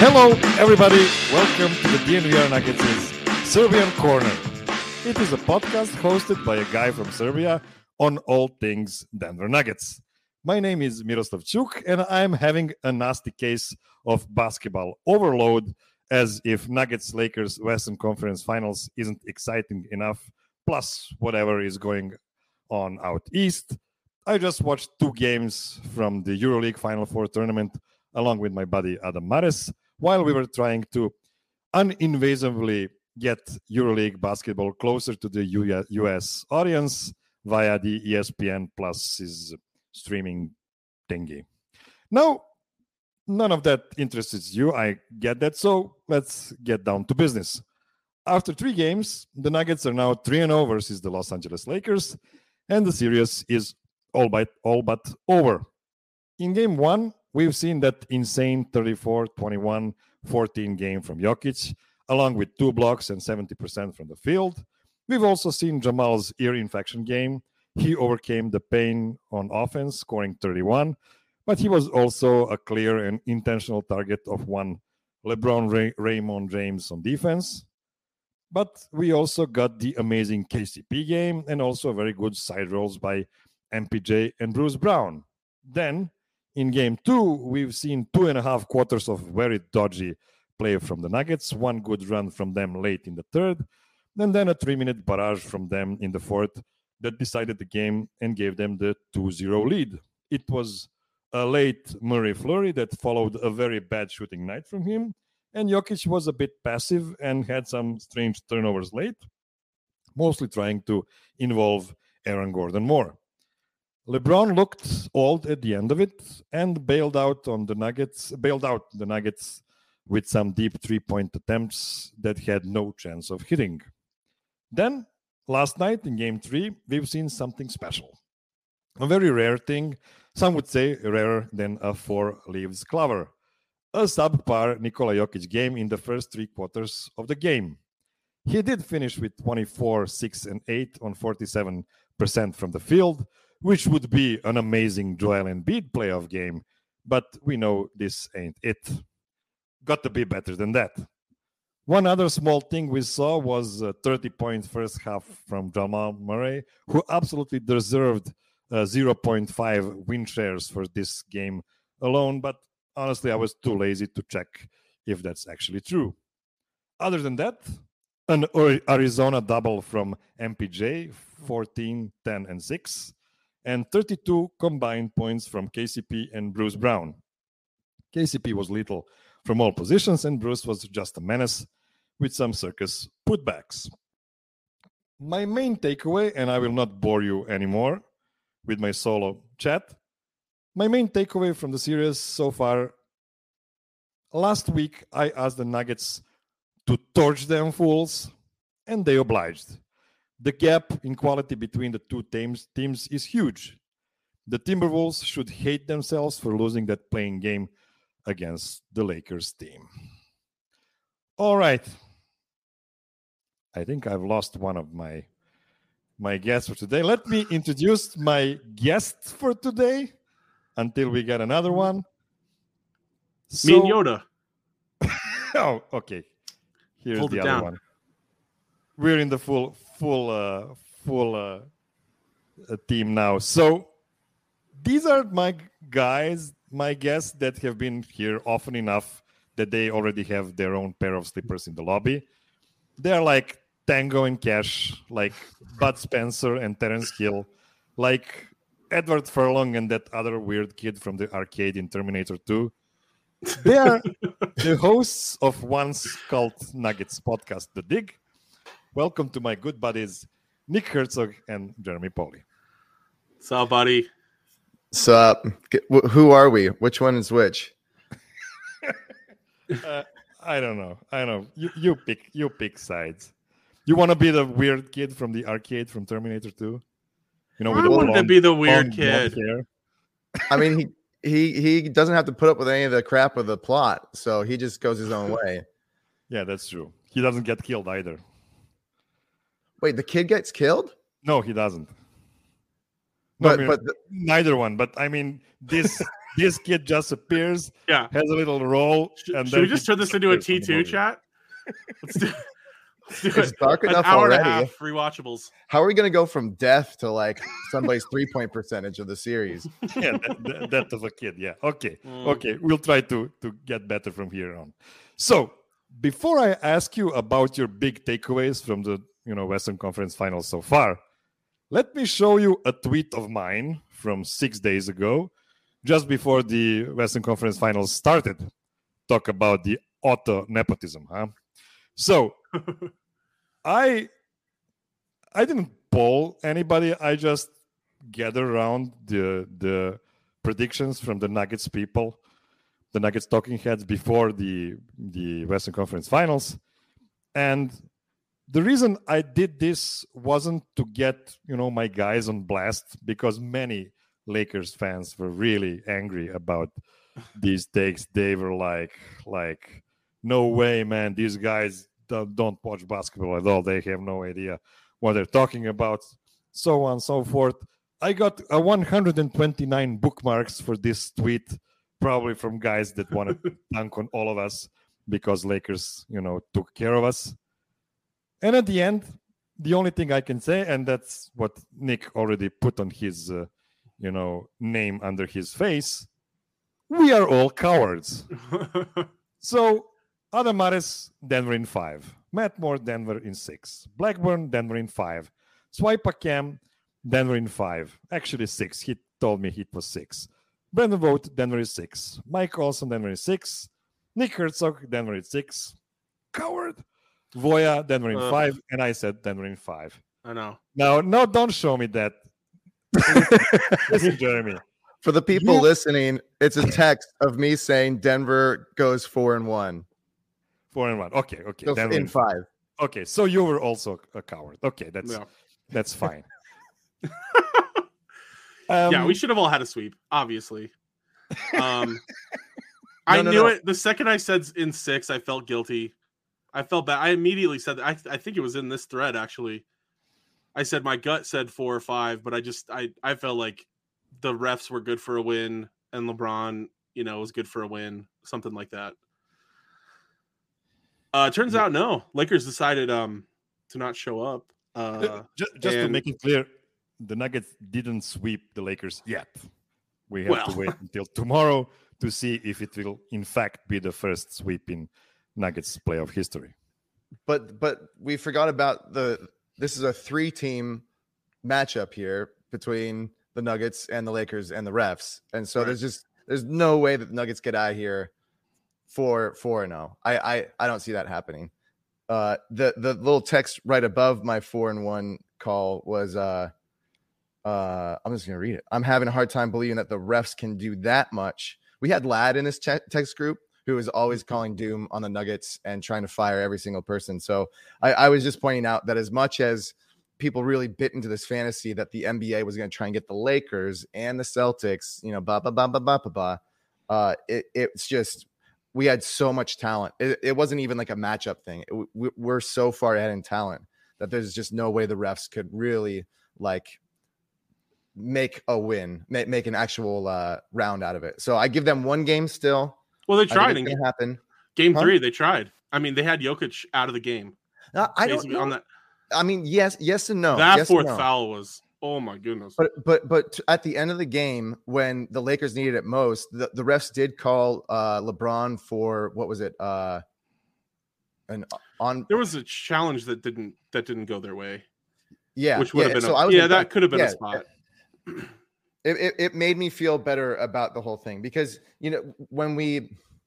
Hello, everybody. Welcome to the DNVR Nuggets' Serbian Corner. It is a podcast hosted by a guy from Serbia on all things Denver Nuggets. My name is Miroslav Chuk, and I'm having a nasty case of basketball overload, as if Nuggets-Lakers Western Conference Finals isn't exciting enough, plus whatever is going on out east. I just watched 2 games from the EuroLeague Final Four tournament along with my buddy Adam Mares, while we were trying to uninvasively get EuroLeague basketball closer to the US audience via the ESPN Plus's streaming thingy. Now, none of that interests you, I get that, so let's get down to business. After 3 games, the Nuggets are now 3-0 versus the Los Angeles Lakers, and the series is all but over. In game 1, we've seen that insane 34-21-14 game from Jokic, along with 2 blocks and 70% from the field. We've also seen Jamal's ear infection game. He overcame the pain on offense, scoring 31, but he was also a clear and intentional target of one LeBron Raymond James on defense. But we also got the amazing KCP game and also very good side rolls by MPJ and Bruce Brown. Then, in game 2, we've seen 2.5 quarters of very dodgy play from the Nuggets, 1 good run from them late in the third, and then a 3-minute barrage from them in the fourth that decided the game and gave them the 2-0 lead. It was a late Murray flurry that followed a very bad shooting night from him, and Jokic was a bit passive and had some strange turnovers late, mostly trying to involve Aaron Gordon more. LeBron looked old at the end of it and bailed out the Nuggets with some deep 3-point attempts that had no chance of hitting. Then, last night in Game 3, we've seen something special. A very rare thing, some would say rarer than a 4-leaves clover. A subpar Nikola Jokic game in the first 3 quarters of the game. He did finish with 24, 6, and 8 on 47% from the field, which would be an amazing Joel Embiid playoff game, but we know this ain't it. Got to be better than that. One other small thing we saw was a 30-point first half from Jamal Murray, who absolutely deserved 0.5 win shares for this game alone, but honestly, I was too lazy to check if that's actually true. Other than that, an Arizona double from MPJ, 14, 10, and 6, and 32 combined points from KCP and Bruce Brown. KCP was lethal from all positions, and Bruce was just a menace with some circus putbacks. My main takeaway, and I will not bore you anymore with my solo chat, my main takeaway from the series so far, last week I asked the Nuggets to torch them fools, and they obliged. The gap in quality between the 2 teams is huge. The Timberwolves should hate themselves for losing that playing game against the Lakers team. All right. I think I've lost one of my guests for today. Let me introduce my guest for today until we get another one. Me and Yoda. Oh, okay. Here's Hold the it other down. one. We're in the full team now. So these are my guys, my guests that have been here often enough that they already have their own pair of slippers in the lobby. They're like Tango and Cash, like Bud Spencer and Terence Hill, like Edward Furlong and that other weird kid from the arcade in Terminator 2. They are the hosts of once called Nuggets podcast, The Dig. Welcome to my good buddies, Nick Herzog and Jeremy Poli. What's up, buddy? So, who are we? Which one is which? I don't know. You pick sides. You want to be the weird kid from the arcade from Terminator 2? You know, I wanted to be the weird blonde kid. hair. I mean, he doesn't have to put up with any of the crap of the plot, so he just goes his own way. Yeah, that's true. He doesn't get killed either. Wait, the kid gets killed? No, he doesn't. But neither one. But I mean, this this kid just appears, Yeah. has a little role, and Should then we just turn this into a disappears from the T2 movie. chat? Let's do It's dark an enough hour and a already. half rewatchables. How are we going to go from death to like somebody's 3-point percentage of the series? Yeah, that of a kid. Yeah. Okay. Mm. Okay. We'll try to get better from here on. So before I ask you about your big takeaways from the Western Conference Finals so far, let me show you a tweet of mine from 6 days ago, just before the Western Conference Finals started. Talk about the auto nepotism, huh? So I didn't poll anybody. I just gathered around the predictions from the Nuggets people, the Nuggets talking heads before the Western Conference Finals. And the reason I did this wasn't to get, my guys on blast, because many Lakers fans were really angry about these takes. They were like, no way, man, these guys don't watch basketball at all. They have no idea what they're talking about, so on and so forth. I got 129 bookmarks for this tweet, probably from guys that wanted to dunk on all of us because Lakers, took care of us. And at the end, the only thing I can say, and that's what Nick already put on his, name under his face, we are all cowards. So, Adamares, Denver in 5. Matt Moore, Denver in 6. Blackburn, Denver in 5. Swipacam, Denver in 5. Actually 6. He told me it was 6. Brandon Vogt, Denver is 6. Mike Olson, Denver is 6. Nick Herzog, Denver is 6. Coward. Voya, Denver in 5. And I said Denver in 5. I know. No, don't show me that. Listen, Jeremy. For the people listening, it's a text of me saying Denver goes 4-1. 4-1. Okay. So Denver in 5. Okay, so you were also a coward. Okay, that's fine. Yeah, we should have all had a sweep, obviously. I knew it. The second I said in 6, I felt guilty. I felt bad. I immediately said that. I think it was in this thread, actually. I said my gut said 4 or 5, but I felt like the refs were good for a win and LeBron, was good for a win, something like that. Turns out, no. Lakers decided to not show up. Just to make it clear, the Nuggets didn't sweep the Lakers yet. We have to wait until tomorrow to see if it will, in fact, be the first sweep in Nuggets playoff history. But we forgot about this is a 3-team matchup here between the Nuggets and the Lakers and the refs. And so there's no way that the Nuggets get out of here 4-0. I don't see that happening. The little text right above my 4-1 call was I'm just gonna read it. I'm having a hard time believing that the refs can do that much. We had Lad in this text group who was always calling doom on the Nuggets and trying to fire every single person. So I was just pointing out that as much as people really bit into this fantasy that the NBA was going to try and get the Lakers and the Celtics, it's just, we had so much talent. It wasn't even like a matchup thing. We're so far ahead in talent that there's just no way the refs could really make a win, make an actual round out of it. So I give them one game still. Well, they tried. It's gonna happen. Game 3, they tried. I mean, they had Jokic out of the game. I don't know. On that. I mean, yes and no. That yes fourth foul was, oh my goodness. But at the end of the game, when the Lakers needed it most, the refs did call LeBron for, what was it? There was a challenge that didn't go their way. Yeah, which would have been that could have been a spot. It made me feel better about the whole thing because when we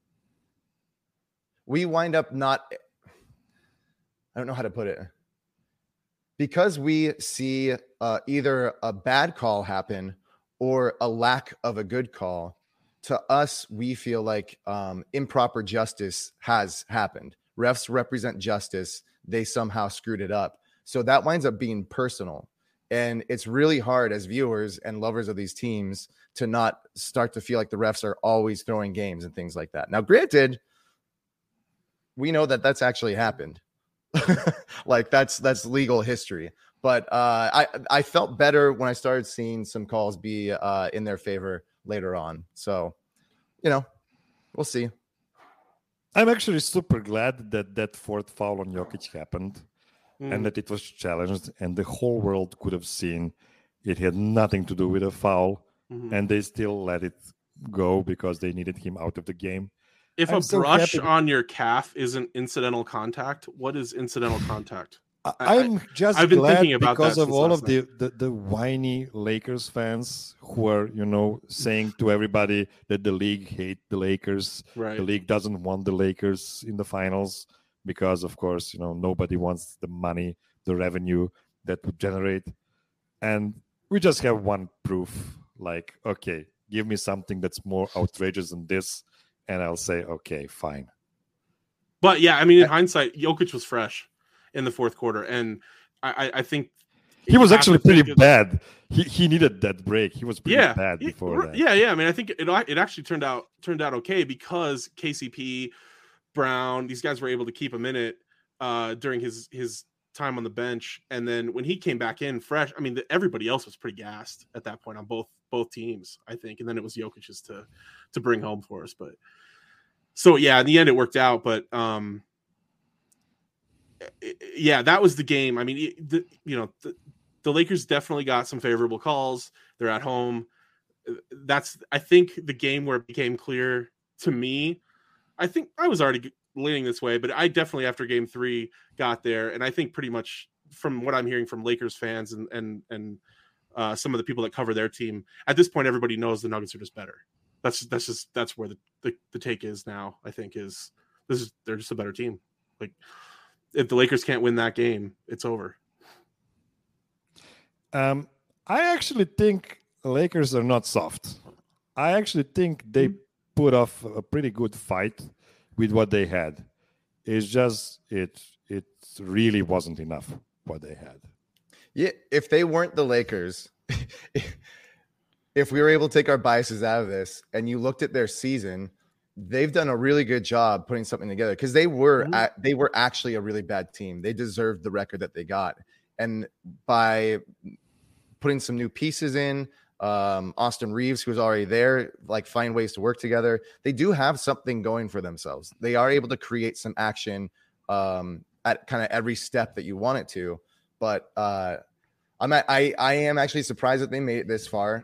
wind up not, I don't know how to put it, because we see either a bad call happen or a lack of a good call. To us, we feel like improper justice has happened. Refs represent justice. They somehow screwed it up. So that winds up being personal. And it's really hard as viewers and lovers of these teams to not start to feel like the refs are always throwing games and things like that. Now, granted, we know that that's actually happened. Like that's legal history. But I felt better when I started seeing some calls be in their favor later on. So, we'll see. I'm actually super glad that fourth foul on Jokic happened and that it was challenged, and the whole world could have seen it had nothing to do with a foul, and they still let it go because they needed him out of the game. If I'm a so brush happy- on your calf isn't incidental contact, what is incidental contact? I'm just I've been glad thinking about because that of since all last of the whiny Lakers fans who are, saying to everybody that the league hate the Lakers. Right. The league doesn't want the Lakers in the finals because, of course, nobody wants the money, the revenue that would generate. And we just have one proof. Like, okay, give me something that's more outrageous than this, and I'll say, okay, fine. But yeah, I mean, in hindsight, Jokic was fresh in the fourth quarter, and I think he was actually pretty think bad. He needed that break. He was pretty bad before that. Yeah. I mean, I think it actually turned out okay because KCP, Brown, these guys were able to keep him in it during his time on the bench, and then when he came back in fresh, I mean, everybody else was pretty gassed at that point on both teams, I think, and then it was Jokic's to bring home for us. But so yeah, in the end, it worked out, but yeah, that was the game. I mean, the Lakers definitely got some favorable calls. They're at home. That's, I think, the game where it became clear to me. I think I was already leaning this way, but I definitely, after game 3, got there. And I think pretty much from what I'm hearing from Lakers fans and some of the people that cover their team, at this point, everybody knows the Nuggets are just better. That's where the take is now. I think they're just a better team. Like, if the Lakers can't win that game, it's over. I actually think Lakers are not soft. I actually think they put off a pretty good fight with what they had. It's just it really wasn't enough what they had. Yeah, if they weren't the Lakers, if we were able to take our biases out of this and you looked at their season, they've done a really good job putting something together because they were actually a really bad team. They deserved the record that they got. And by putting some new pieces in, Austin Reeves, who was already there, like, find ways to work together, they do have something going for themselves. They are able to create some action at kind of every step that you want it to. But I am actually surprised that they made it this far.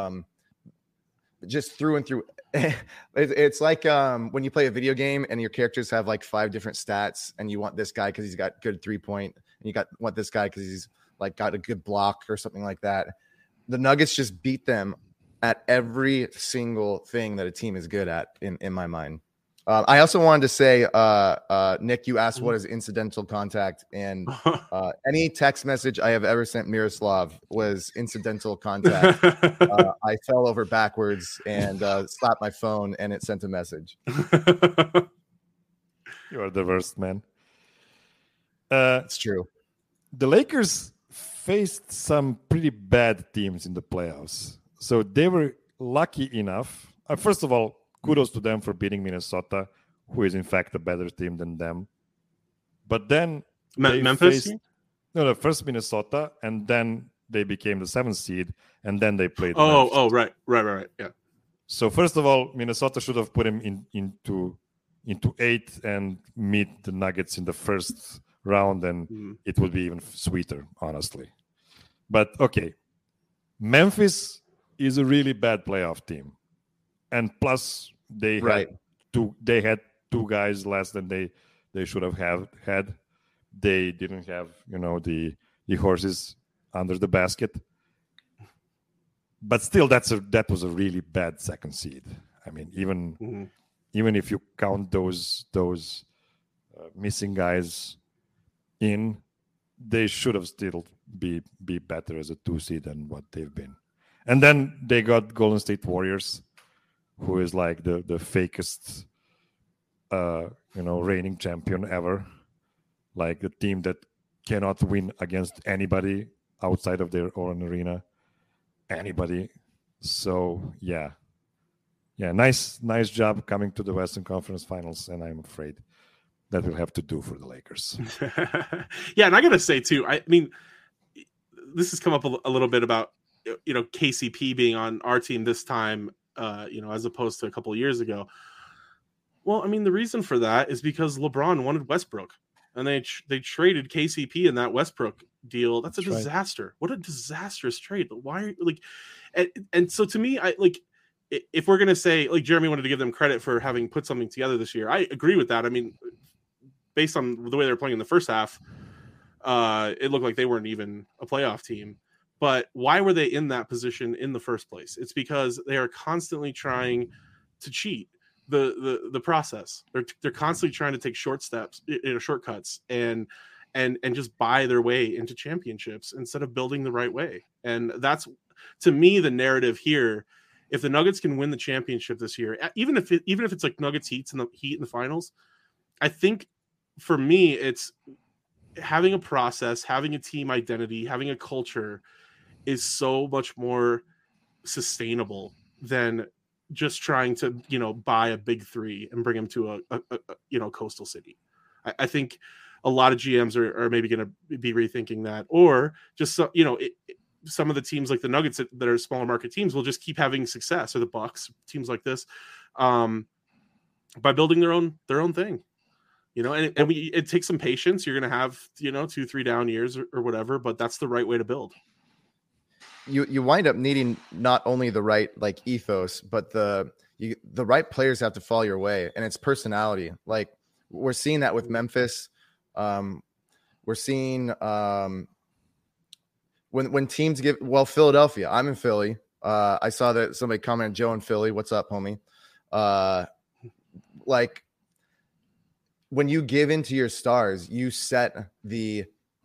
Just through and through. It's like when you play a video game and your characters have like 5 different stats, and you want this guy because he's got good 3-point, and want this guy because he's like got a good block or something like that. The Nuggets just beat them at every single thing that a team is good at, in my mind. I also wanted to say, Nick, you asked what is incidental contact, and any text message I have ever sent Miroslav was incidental contact. I fell over backwards and slapped my phone, and it sent a message. You are the worst, man. It's true. The Lakers faced some pretty bad teams in the playoffs, so they were lucky enough. First of all, kudos to them for beating Minnesota, who is in fact a better team than them. But then Memphis? First Minnesota, and then they became the 7th seed, and then they played. Right. Yeah. So first of all, Minnesota should have put him into 8th and meet the Nuggets in the first round, and it would be even sweeter, honestly. But okay, Memphis is a really bad playoff team. And plus, they had two guys less than they should have had. They didn't have, the horses under the basket. But still, that was a really bad 2nd seed. I mean, even if you count those missing guys in, they should have still be better as a 2 seed than what they've been. And then they got Golden State Warriors, who is like the fakest, reigning champion ever. Like the team that cannot win against anybody outside of their own arena. Anybody. So, yeah, nice job coming to the Western Conference Finals, and I'm afraid that will have to do for the Lakers. Yeah, and I got to say, too, I mean, this has come up a little bit about, KCP being on our team this time. as opposed to a couple of years ago. Well, I mean, the reason for that is because LeBron wanted Westbrook, and they traded KCP in that Westbrook deal. That's a disaster. Right. What a disastrous trade. But why are you, like, and so to me, I like, if we're gonna say, like, Jeremy wanted to give them credit for having put something together this year, I agree with that. I mean, based on the way they were playing in the first half, it looked like they weren't even a playoff team. But why were they in that position in the first place? It's because they are constantly trying to cheat the process. They're constantly trying to take shortcuts and just buy their way into championships instead of building the right way. And that's, to me, the narrative here. If the Nuggets can win the championship this year, even if it's like Nuggets Heat in the finals, I think for me it's having a process, having a team identity, having a culture is so much more sustainable than just trying to, buy a big three and bring them to a coastal city. I think a lot of GMs are maybe going to be rethinking that, or just, some of the teams like the Nuggets that are smaller market teams will just keep having success, or the Bucks, teams like this, by building their own thing, and it takes some patience. You're going to have, 2-3 down years or whatever, but that's the right way to build. You wind up needing not only the right ethos, but the right players have to fall your way, and it's personality. Like we're seeing that with Memphis. We're seeing when teams Philadelphia. I'm in Philly. I saw that somebody commented, Joe in Philly. What's up, homie? Like when you give into your stars, you set the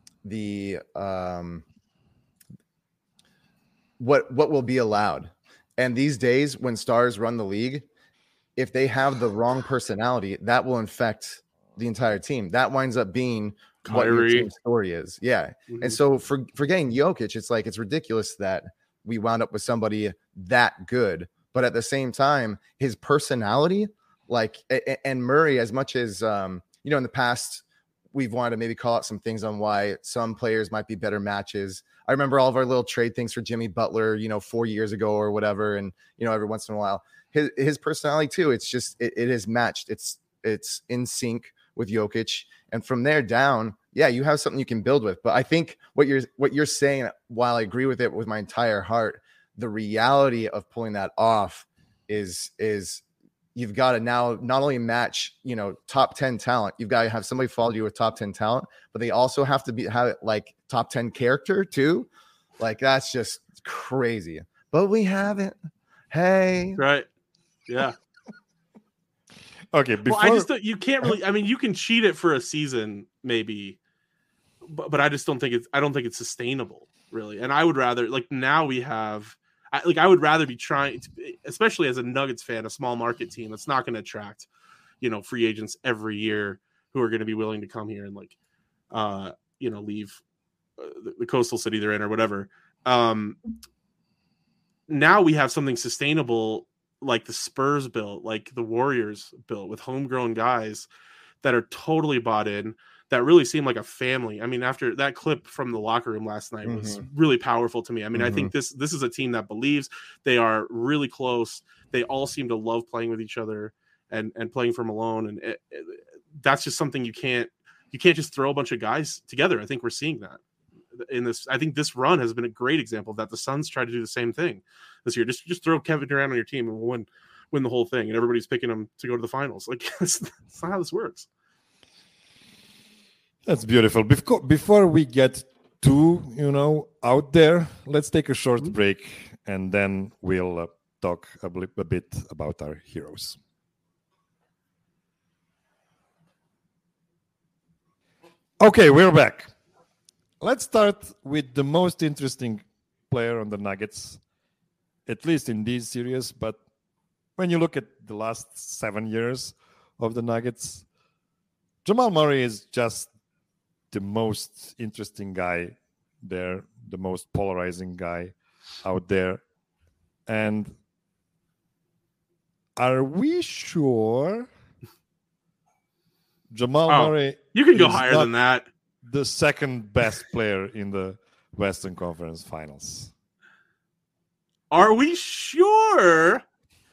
what will be allowed. And these days when stars run the league, if they have the wrong personality, that will infect the entire team. That winds up being Kyrie. What your team story is. Yeah. Mm-hmm. And so for getting Jokic, it's like, it's ridiculous that we wound up with somebody that good, but at the same time, his personality, and Murray, as much as, in the past, we've wanted to maybe call out some things on why some players might be better matches. I remember all of our little trade things for Jimmy Butler, 4 years ago or whatever. And, every once in a while, his personality too, it's just, it is matched. It's in sync with Jokic. And from there down, yeah, you have something you can build with. But I think what you're saying, while I agree with it with my entire heart, the reality of pulling that off is you've got to now not only match, top 10 talent, you've got to have somebody follow you with top 10 talent, but they also have to have it like top 10 character too. Like that's just crazy, but we haven't. Hey, right. Yeah. Okay. You can't really, I mean, you can cheat it for a season maybe, but I just don't think it's sustainable really. And I would rather, now we have, I would rather be trying to, especially as a Nuggets fan, a small market team that's not going to attract, free agents every year who are going to be willing to come here and leave the coastal city they're in or whatever. Now we have something sustainable, like the Spurs built, like the Warriors built, with homegrown guys that are totally bought in, that really seem like a family. I mean, after that clip from the locker room last night was really powerful to me. I mean, I think this is a team that believes. They are really close. They all seem to love playing with each other and playing for Malone. And that's just something you can't just throw a bunch of guys together. I think we're seeing that in this. I think this run has been a great example of that. The Suns tried to do the same thing this year. Just throw Kevin Durant on your team and we'll win the whole thing. And everybody's picking them to go to the finals. Like that's not how this works. That's beautiful. Before we get too, out there, let's take a short break and then we'll talk a bit about our heroes. Okay, we're back. Let's start with the most interesting player on the Nuggets, at least in this series. But when you look at the last 7 years of the Nuggets, Jamal Murray is just the most interesting guy there, the most polarizing guy out there. And are we sure Jamal Murray? You can go higher than that. The second best player in the Western Conference Finals. Are we sure?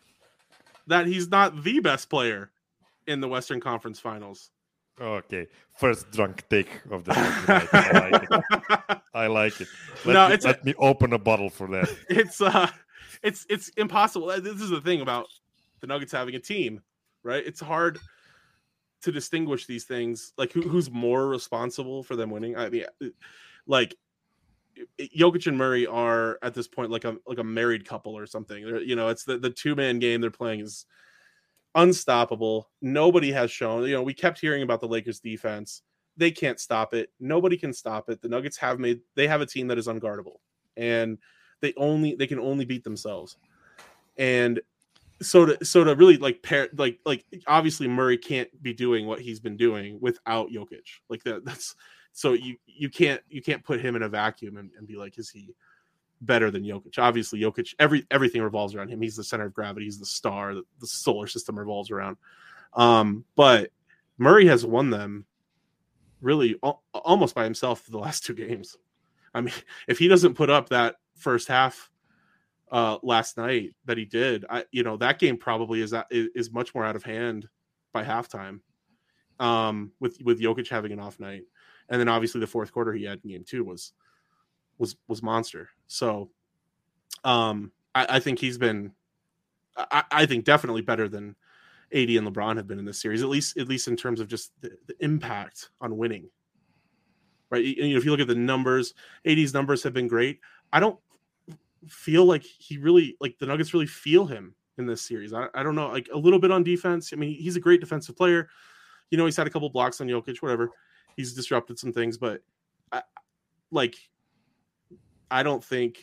that he's not the best player in the Western Conference Finals. Okay, first drunk take of the night. I like it. I like it. Let me open a bottle for that. It's impossible. This is the thing about the Nuggets having a team, right? It's hard to distinguish these things, like who's more responsible for them winning. I mean, like Jokic and Murray are at this point like a married couple or something. You know, it's the 2-man game they're playing is unstoppable. Nobody has shown. You know, we kept hearing about the Lakers defense. They can't stop it. Nobody can stop it. The Nuggets have a team that is unguardable, and they can only beat themselves. And so to really like pair like obviously Murray can't be doing what he's been doing without Jokic. Like that's so you can't put him in a vacuum and be like, is he better than Jokic? Obviously Jokic, everything revolves around him. He's the center of gravity. He's the star. The solar system revolves around. But Murray has won them really almost by himself the last 2 games. I mean, if he doesn't put up that first half last night that he did, that game probably is much more out of hand by halftime. With Jokic having an off night, and then obviously the fourth quarter he had in game 2 was monster. So, I think he's been, I think definitely better than AD and LeBron have been in this series, at least in terms of just the impact on winning. Right? If you look at the numbers, AD's numbers have been great. I don't feel like the Nuggets really feel him in this series. I don't know, like a little bit on defense. I mean, he's a great defensive player. You know, he's had a couple blocks on Jokic, whatever. He's disrupted some things, but I don't think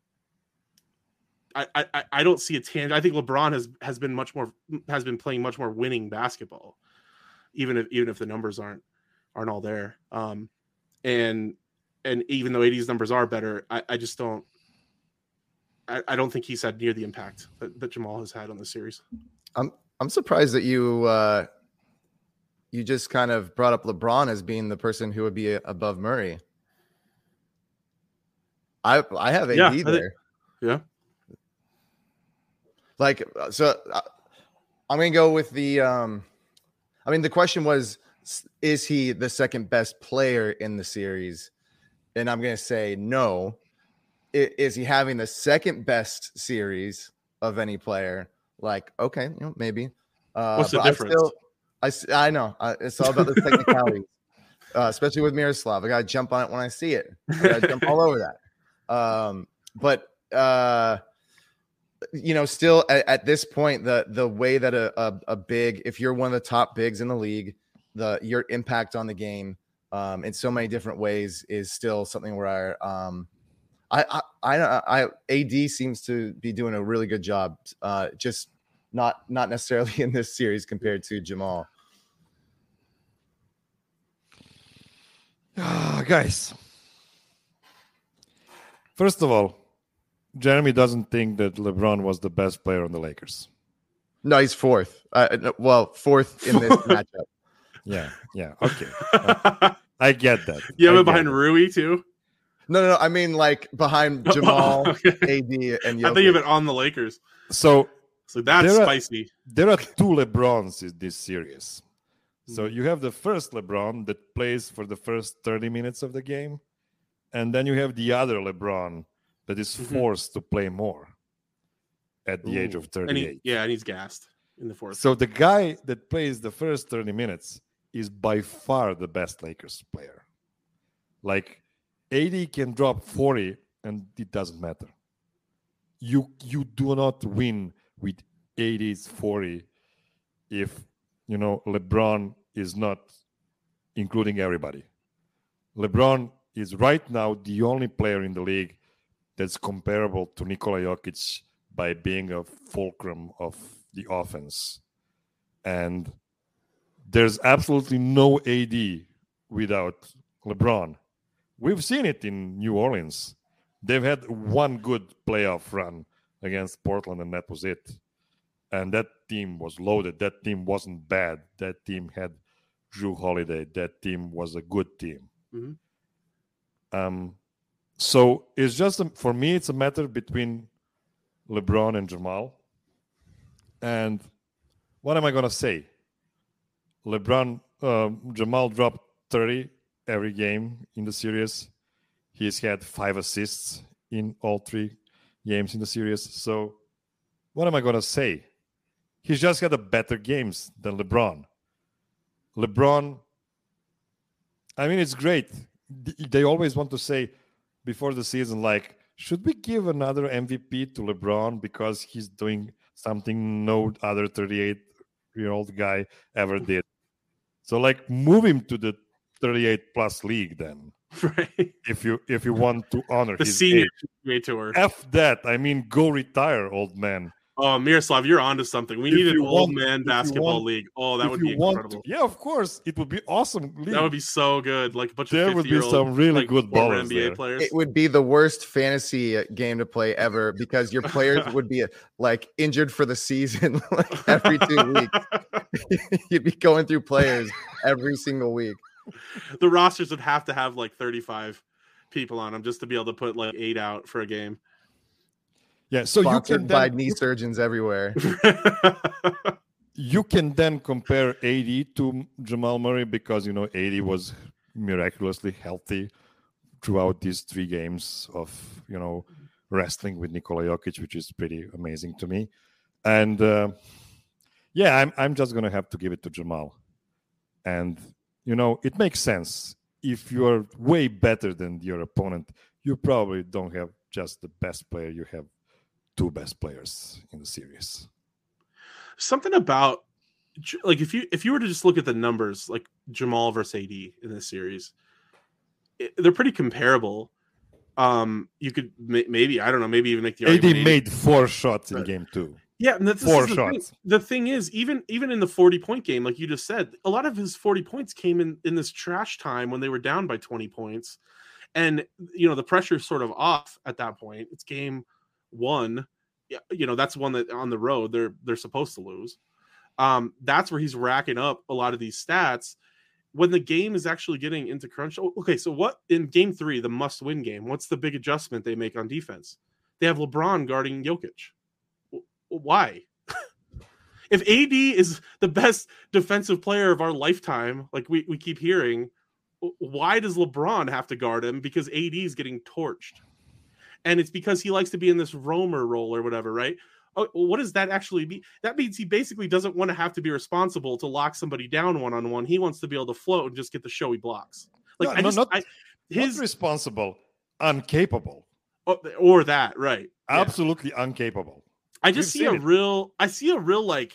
I don't see a tangent. I think LeBron has been playing much more winning basketball, even if the numbers aren't all there. And even though AD's numbers are better, I just don't. I don't think he's had near the impact that Jamal has had on this series. I'm surprised that you just kind of brought up LeBron as being the person who would be above Murray. I have AD there. Yeah. Like, so I'm going to go with the, the question was, is he the second best player in the series? And I'm going to say no. Is he having the second best series of any player? Like, okay, maybe. What's the difference? I know. It's all about the technicalities, especially with Miroslav. I got to jump on it when I see it. I got to jump all over that. But still at this point, the way that a big, if you're one of the top bigs in the league, your impact on the game in so many different ways is still something where AD seems to be doing a really good job. Just not necessarily in this series compared to Jamal. Guys, first of all, Jeremy doesn't think that LeBron was the best player on the Lakers. No, he's fourth. Fourth in this matchup. Yeah. Okay. I get that. You have it behind Rui too? No. I mean, like behind Jamal, okay. AD, and Jokic. I think of it on the Lakers. So that's spicy. There are 2 LeBrons in this series. So you have the first LeBron that plays for the first 30 minutes of the game, and then you have the other LeBron that is forced to play more at the age of 38. And he's gassed in the fourth. So the guy that plays the first 30 minutes is by far the best Lakers player. Like, AD can drop 40 and it doesn't matter. You do not win with AD's 40 if, LeBron is not including everybody. LeBron is right now the only player in the league that's comparable to Nikola Jokic by being a fulcrum of the offense. And there's absolutely no AD without LeBron. We've seen it in New Orleans. They've had one good playoff run against Portland, and that was it. And that team was loaded. That team wasn't bad. That team had Jrue Holiday. That team was a good team. So it's just, for me, it's a matter between LeBron and Jamal. And what am I gonna say? Jamal dropped 30 every game in the series. He's had 5 assists in all 3 games in the series. So what am I gonna say? He's just had a better games than LeBron. LeBron, I mean, it's great. They always want to say before the season, like, should we give another MVP to LeBron because he's doing something no other 38-year-old guy ever did? So, like, move him to the 38-plus league then. Right. If you want to honor the his senior age. tour. F that. I mean, go retire, old man. Oh, Miroslav, you're onto something. We need an old man basketball league. Oh, that would be incredible. Yeah, of course. It would be awesome. League. That would be so good. Like a bunch there of would be some really good ballers NBA there. players. It would be the worst fantasy game to play ever because your players would be like injured for the season like every 2 weeks. You'd be going through players every single week. The rosters would have to have like 35 people on them just to be able to put like 8 out for a game. Yeah, so sponsored by knee surgeons everywhere. You can then compare AD to Jamal Murray because, you know, AD was miraculously healthy throughout these 3 games of, you know, wrestling with Nikola Jokic, which is pretty amazing to me. And yeah, I'm just going to have to give it to Jamal. And, you know, it makes sense. If you're way better than your opponent, you probably don't have just the best player. You have 2 best players in the series. Something about like if you were to just look at the numbers, like Jamal versus AD in this series, they're pretty comparable. You could maybe, I don't know, maybe even make the AD argument made 4 shots in game 2. Yeah, and that's 4 shots. The thing is, even in the 40-point game, like you just said, a lot of his 40 points came in this trash time when they were down by 20 points. And, you know, the pressure's sort of off at that point. It's game 1. You know, that's one that on the road they're supposed to lose. That's where he's racking up a lot of these stats when the game is actually getting into crunch. Okay, so what in game 3, the must-win game, what's the big adjustment they make on defense? They have LeBron guarding Jokic. Why? If AD is the best defensive player of our lifetime, like we keep hearing, why does LeBron have to guard him? Because AD is getting torched. And it's because he likes to be in this roamer role or whatever, right? Oh, what does that actually mean? That means he basically doesn't want to have to be responsible to lock somebody down one-on-one. He wants to be able to float and just get the showy blocks. Like not responsible, incapable. Or that, right? Absolutely incapable. I see a real like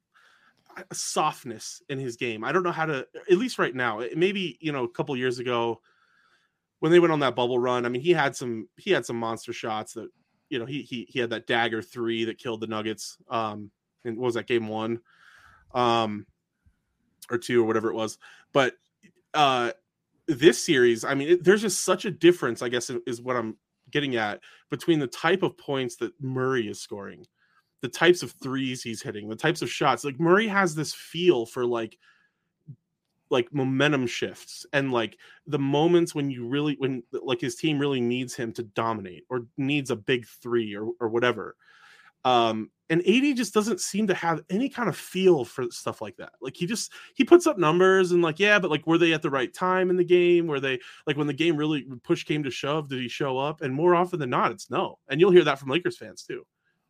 softness in his game. I don't know how to, at least right now. Maybe, you know, a couple years ago when they went on that bubble run, I mean, he had some monster shots that, you know, he had that dagger 3 that killed the Nuggets. And what was that, game 1? Or 2 or whatever it was. But this series, I mean, there's just such a difference, I guess, is what I'm getting at, between the type of points that Murray is scoring, the types of threes he's hitting, the types of shots. Like Murray has this feel for like momentum shifts and like the moments when like his team really needs him to dominate or needs a big 3 or whatever. And AD just doesn't seem to have any kind of feel for stuff like that. Like he puts up numbers and like, yeah, but like, were they at the right time in the game? Were they like, when the game really push came to shove, did he show up? And more often than not, it's no. And you'll hear that from Lakers fans too.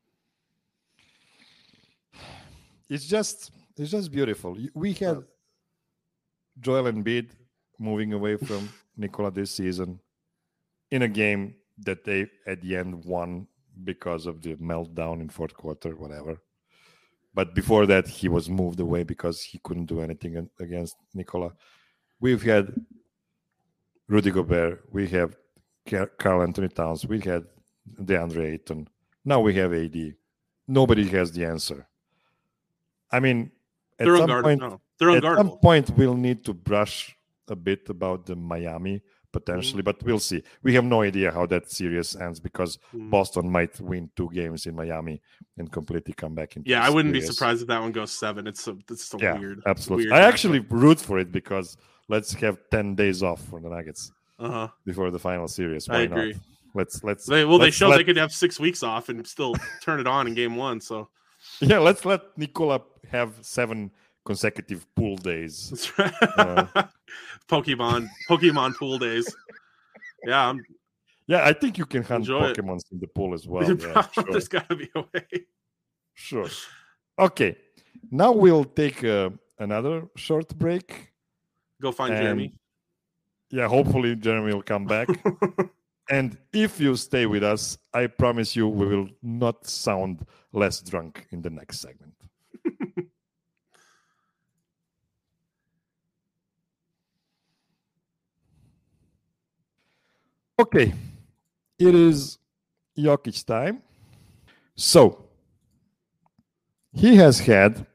It's just beautiful. We had Joel Embiid moving away from Nikola this season in a game that they at the end won because of the meltdown in fourth quarter, whatever. But before that, he was moved away because he couldn't do anything against Nikola. We've had Rudy Gobert. We have Karl Anthony Towns. We had DeAndre Ayton. Now we have AD. Nobody has the answer. I mean, at some point, we'll need to brush a bit about the Miami potentially, but we'll see. We have no idea how that series ends because Boston might win 2 games in Miami and completely come back into I wouldn't be surprised if that one goes 7. It's so weird. Absolutely. Weird I actually root for it because let's have 10 days off for the Nuggets before the final series. Why I agree. Not? Let's. They showed they could have 6 weeks off and still turn it on in game 1. So Yeah, let's let Nikola have 7 consecutive pool days. That's right. Pokemon pool days. Yeah, Yeah, I think you can hunt Enjoy it. Pokemons in the pool as well. Yeah, sure. There's got to be a way. Sure. Okay. Now we'll take another short break. Go find And, Jeremy. Yeah, hopefully Jeremy will come back. And if you stay with us, I promise you we will not sound less drunk in the next segment. Okay, it is Jokic time. So, he has had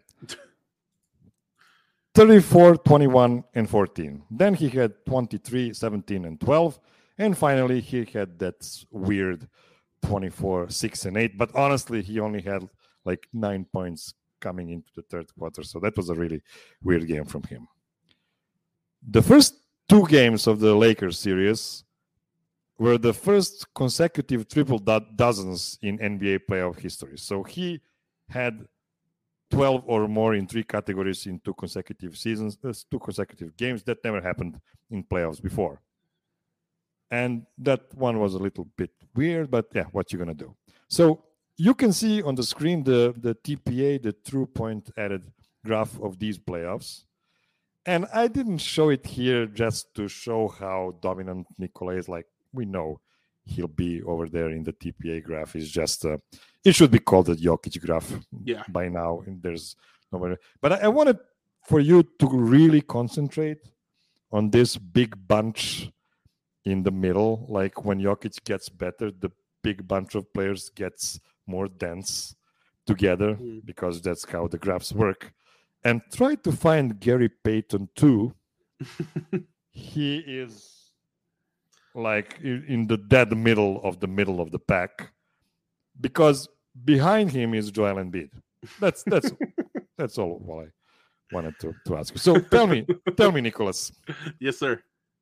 34, 21, and 14. Then he had 23, 17, and 12. And finally, he had that weird 24, 6, and 8. But honestly, he only had like 9 points coming into the third quarter. So that was a really weird game from him. The first 2 games of the Lakers series were the first consecutive triple dozens in NBA playoff history. So he had 12 or more in 3 categories in 2 consecutive seasons, 2 consecutive games. That never happened in playoffs before. And that one was a little bit weird, but yeah, what you going to do? So you can see on the screen the TPA, the true point added graph of these playoffs. And I didn't show it here just to show how dominant Nikola is. Like, we know he'll be over there in the TPA graph. It's just, it should be called the Jokic graph by now. And there's nobody. But I wanted for you to really concentrate on this big bunch in the middle. Like when Jokic gets better, the big bunch of players gets more dense together because that's how the graphs work. And try to find Gary Payton too. He is like in the dead middle of the pack, because behind him is Joel Embiid. That's all what I wanted to ask you. So tell me, Nicholas. Yes, sir.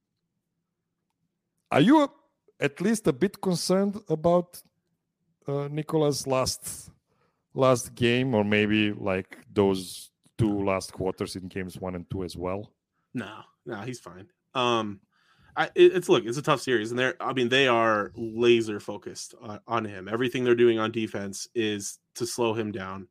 Are you at least a bit concerned about Nikola's last game, or maybe like those 2 last quarters in games 1 and 2 as well? No, he's fine. It's a tough series, and they are laser focused on him. Everything they're doing on defense is to slow him down.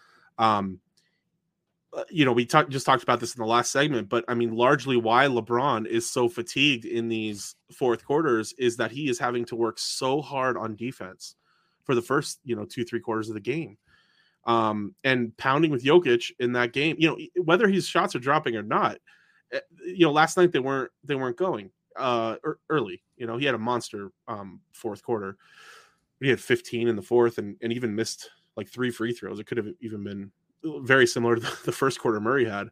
We just talked about this in the last segment, but I mean, largely why LeBron is so fatigued in these fourth quarters is that he is having to work so hard on defense for the first 2-3 quarters of the game, and pounding with Jokic in that game. Whether his shots are dropping or not. Last night they weren't going early. He had a monster fourth quarter. He had 15 in the fourth and even missed like 3 free throws. It could have even been very similar to the first quarter Murray had.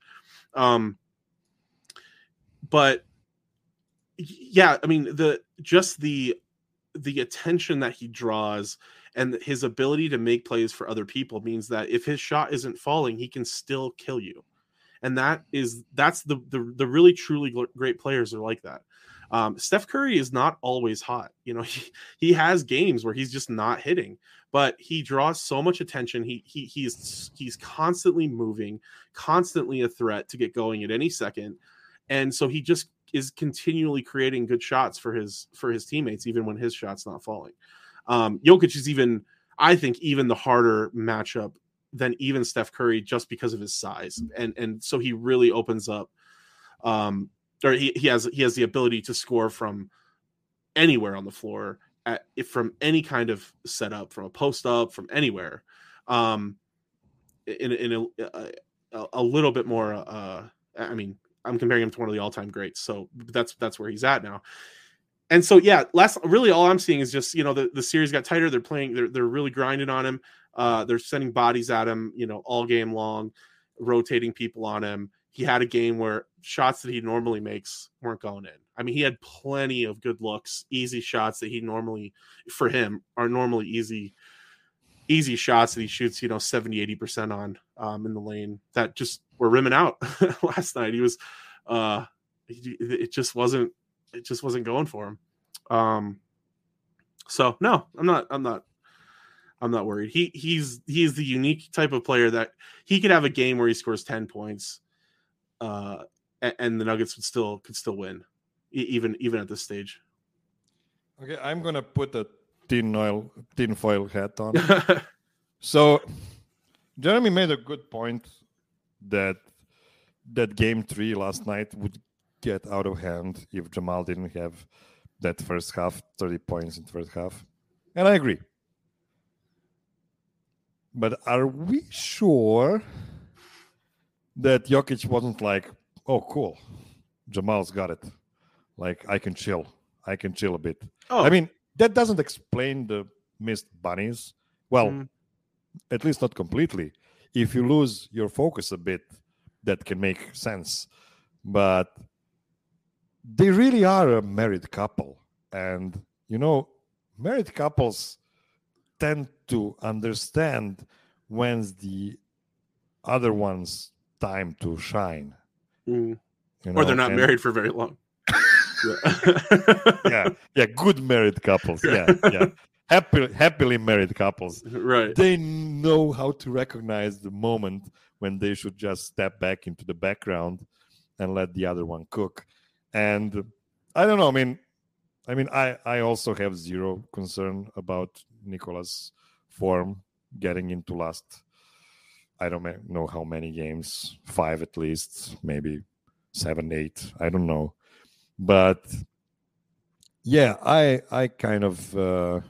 But yeah, I mean, the attention that he draws and his ability to make plays for other people means that if his shot isn't falling, he can still kill you. And that's the really truly great players are like that. Steph Curry is not always hot. He has games where he's just not hitting, but he draws so much attention. He's constantly moving, constantly a threat to get going at any second. And so he just is continually creating good shots for his teammates, even when his shot's not falling. Jokic is I think even the harder matchup than even Steph Curry, just because of his size. And so he really opens up, or he has the ability to score from anywhere on the floor, from any kind of setup, from a post up, from anywhere, in a little bit more. I mean, I'm comparing him to one of the all-time greats, so that's where he's at now. And so, yeah, really all I'm seeing is just, the series got tighter. They're playing, they're really grinding on him. They're sending bodies at him, all game long, rotating people on him. He had a game where shots that he normally makes weren't going in. I mean, he had plenty of good looks, easy shots that for him, are normally easy shots that he shoots, 70-80% on in the lane that just were rimming out last night. He was, it just wasn't going for him. So no, I'm not I'm not worried. He's the unique type of player that he could have a game where he scores 10 points, and the Nuggets could still win, even at this stage. Okay, I'm gonna put a tinfoil hat on. So Jeremy made a good point that game 3 last night would get out of hand if Jamal didn't have that first half, 30 points in the first half. And I agree. But are we sure that Jokic wasn't like, oh, cool, Jamal's got it. Like, I can chill a bit. Oh. I mean, that doesn't explain the missed bunnies. Well, at least not completely. If you lose your focus a bit, that can make sense. But they really are a married couple. And, married couples tend to understand when's the other one's time to shine. Or they're not married for very long. yeah, good married couples. Yeah. Happily married couples. Right. They know how to recognize the moment when they should just step back into the background and let the other one cook. And I don't know. I also have zero concern about Nikola's form getting into last, I don't know how many games, 5 at least, maybe 7, 8, I don't know. But yeah, I kind of feel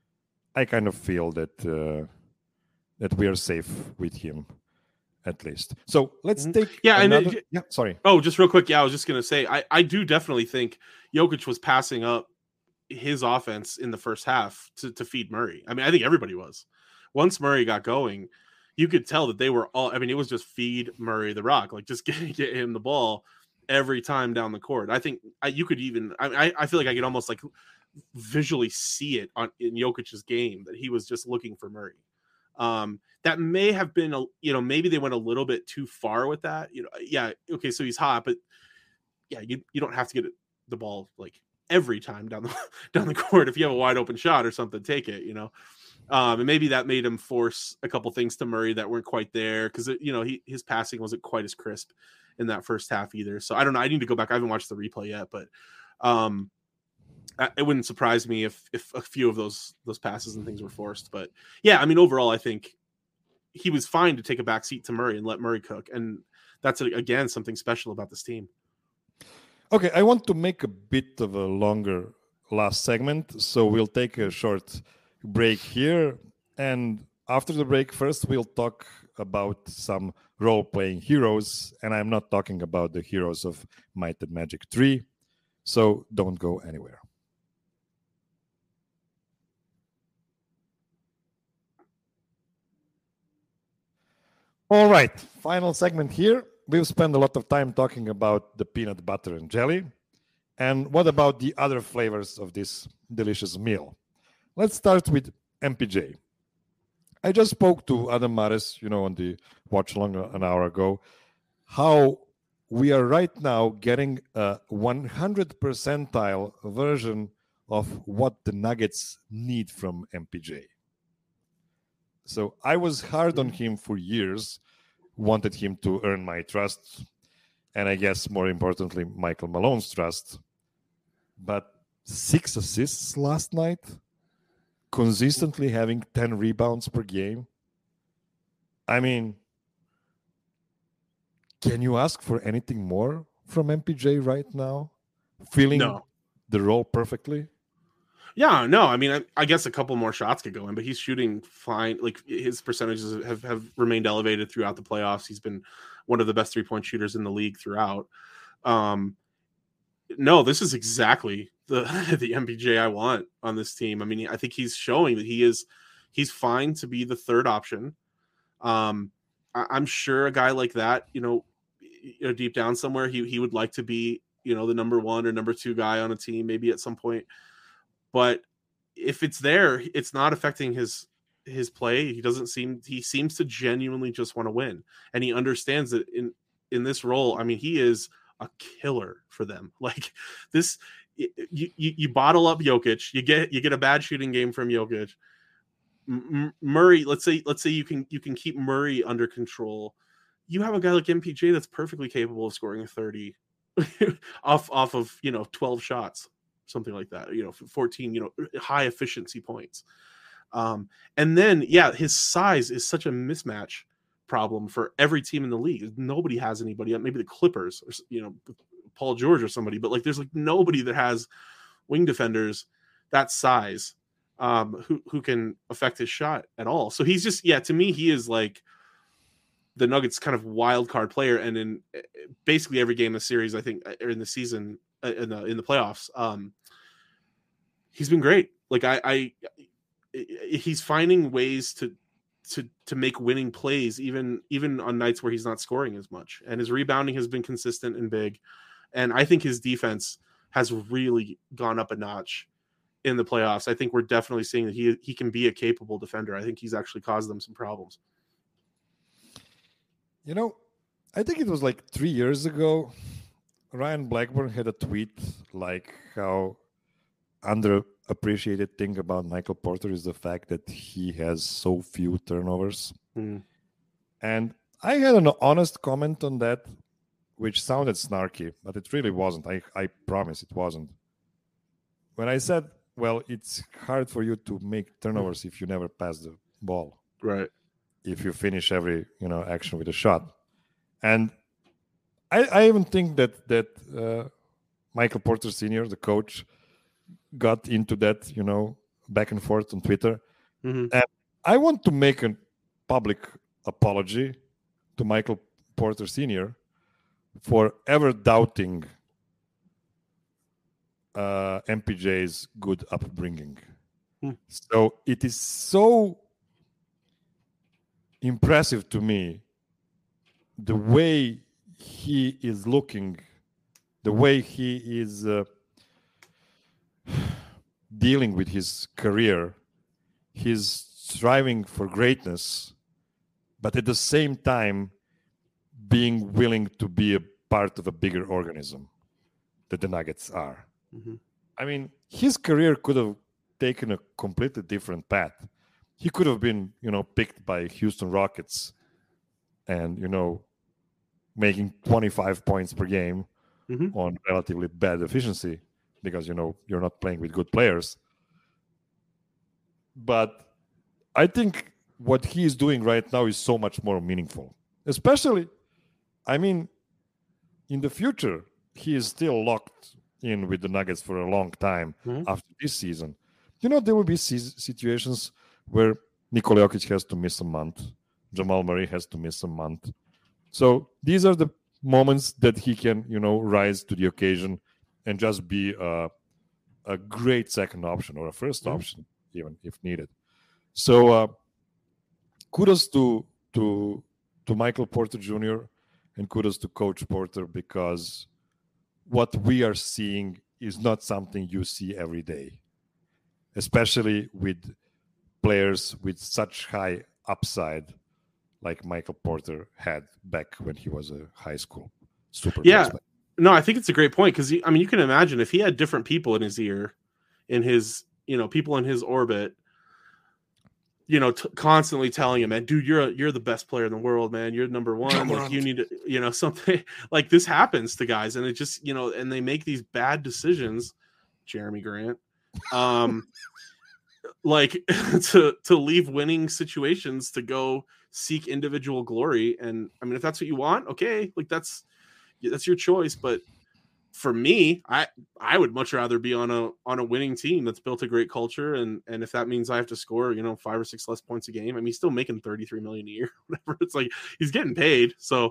that we are safe with him, at least. So let's take another... sorry. Oh, just real quick. Yeah, I was just gonna say I do definitely think Jokic was passing up his offense in the first half to feed Murray. I mean, I think everybody was. Once Murray got going, you could tell that they were all. I mean, it was just feed Murray the rock, like just get him the ball every time down the court. I think you could even. I feel like I could almost like visually see it in Jokic's game that he was just looking for Murray. That may have been maybe they went a little bit too far with that. Yeah, okay, so he's hot, but yeah, you don't have to get the ball like every time down the court. If you have a wide open shot or something, take it. And maybe that made him force a couple things to Murray that weren't quite there because his passing wasn't quite as crisp in that first half either. So I don't know. I need to go back. I haven't watched the replay yet, but it wouldn't surprise me if a few of those passes and things were forced. But yeah, I mean, overall, I think he was fine to take a back seat to Murray and let Murray cook. And that's, again, something special about this team. Okay, I want to make a bit of a longer last segment, so we'll take a short break here. And after the break, first we'll talk about some role-playing heroes, and I'm not talking about the heroes of Might and Magic 3, so don't go anywhere. All right, final segment here. We've spent a lot of time talking about the peanut butter and jelly. And what about the other flavors of this delicious meal? Let's start with MPJ. I just spoke to Adam Mares, on the watch along an hour ago, how we are right now getting a 100 percentile version of what the Nuggets need from MPJ. So I was hard on him for years, wanted him to earn my trust, and I guess more importantly, Michael Malone's trust. But 6 assists last night, consistently having 10 rebounds per game. I mean, can you ask for anything more from MPJ right now? Filling the role perfectly? Yeah, no, I mean, I guess a couple more shots could go in, but he's shooting fine. Like his percentages have remained elevated throughout the playoffs. He's been one of the best 3-point shooters in the league throughout. No, this is exactly the MPJ I want on this team. I mean, I think he's showing that he's fine to be the third option. I'm sure a guy like that, deep down somewhere, he would like to be, the number 1 or number 2 guy on a team, maybe at some point. But if it's there, it's not affecting his play. He seems to genuinely just want to win. And he understands that in this role, I mean, he is a killer for them. Like this, you bottle up Jokic, you get a bad shooting game from Jokic. Murray, let's say you can keep Murray under control. You have a guy like MPJ that's perfectly capable of scoring 30 off of 12 shots, something like that. 14 high efficiency points. And then his size is such a mismatch problem for every team in the league. Nobody has anybody. Maybe the Clippers, or Paul George or somebody, but there's nobody that has wing defenders that size who can affect his shot at all. So he's just to me he is like the Nuggets kind of wild card player, and in basically every game of the series, I think, or in the season, in the playoffs, he's been great. He's finding ways to make winning plays, even on nights where he's not scoring as much, and his rebounding has been consistent and big, and I think his defense has really gone up a notch in the playoffs. I think we're definitely seeing that he can be a capable defender. I think he's actually caused them some problems. I think it was 3 years ago, Ryan Blackburn had a tweet how underappreciated thing about Michael Porter is the fact that he has so few turnovers. And I had an honest comment on that, which sounded snarky, but it really wasn't. I promise it wasn't. When I said, well, it's hard for you to make turnovers if you never pass the ball. Right. If you finish every action with a shot. And I even think that Michael Porter Sr., the coach, got into that back and forth on Twitter. And I want to make a public apology to Michael Porter Sr. for ever doubting MPJ's good upbringing. So it is so impressive to me the way he is looking, the way he is dealing with his career. He's striving for greatness, but at the same time being willing to be a part of a bigger organism that the Nuggets are. I mean, his career could have taken a completely different path. He could have been, picked by Houston Rockets and, making 25 points per game on relatively bad efficiency because, you're not playing with good players. But I think what he is doing right now is so much more meaningful. Especially, in the future, he is still locked in with the Nuggets for a long time after this season. There will be situations where Nikola Jokic has to miss a month. Jamal Murray has to miss a month. So these are the moments that he can, rise to the occasion and just be a great second option or a first option, even if needed. So kudos to Michael Porter Jr. and kudos to Coach Porter, because what we are seeing is not something you see every day, especially with players with such high upside like Michael Porter had back when he was a high school super prospect. No, I think it's a great point because you can imagine if he had different people in his ear, in his people in his orbit, constantly telling him, man, dude, you're the best player in the world, man. You're number one. Like, you need to, something like this happens to guys, and it just, and they make these bad decisions. Jeremy Grant, to leave winning situations to go seek individual glory. And if that's what you want, okay, that's your choice. But for me, I would much rather be on a winning team that's built a great culture, and if that means I have to score 5 or 6 less points a game, he's still making $33 million a year, whatever. It's like he's getting paid. So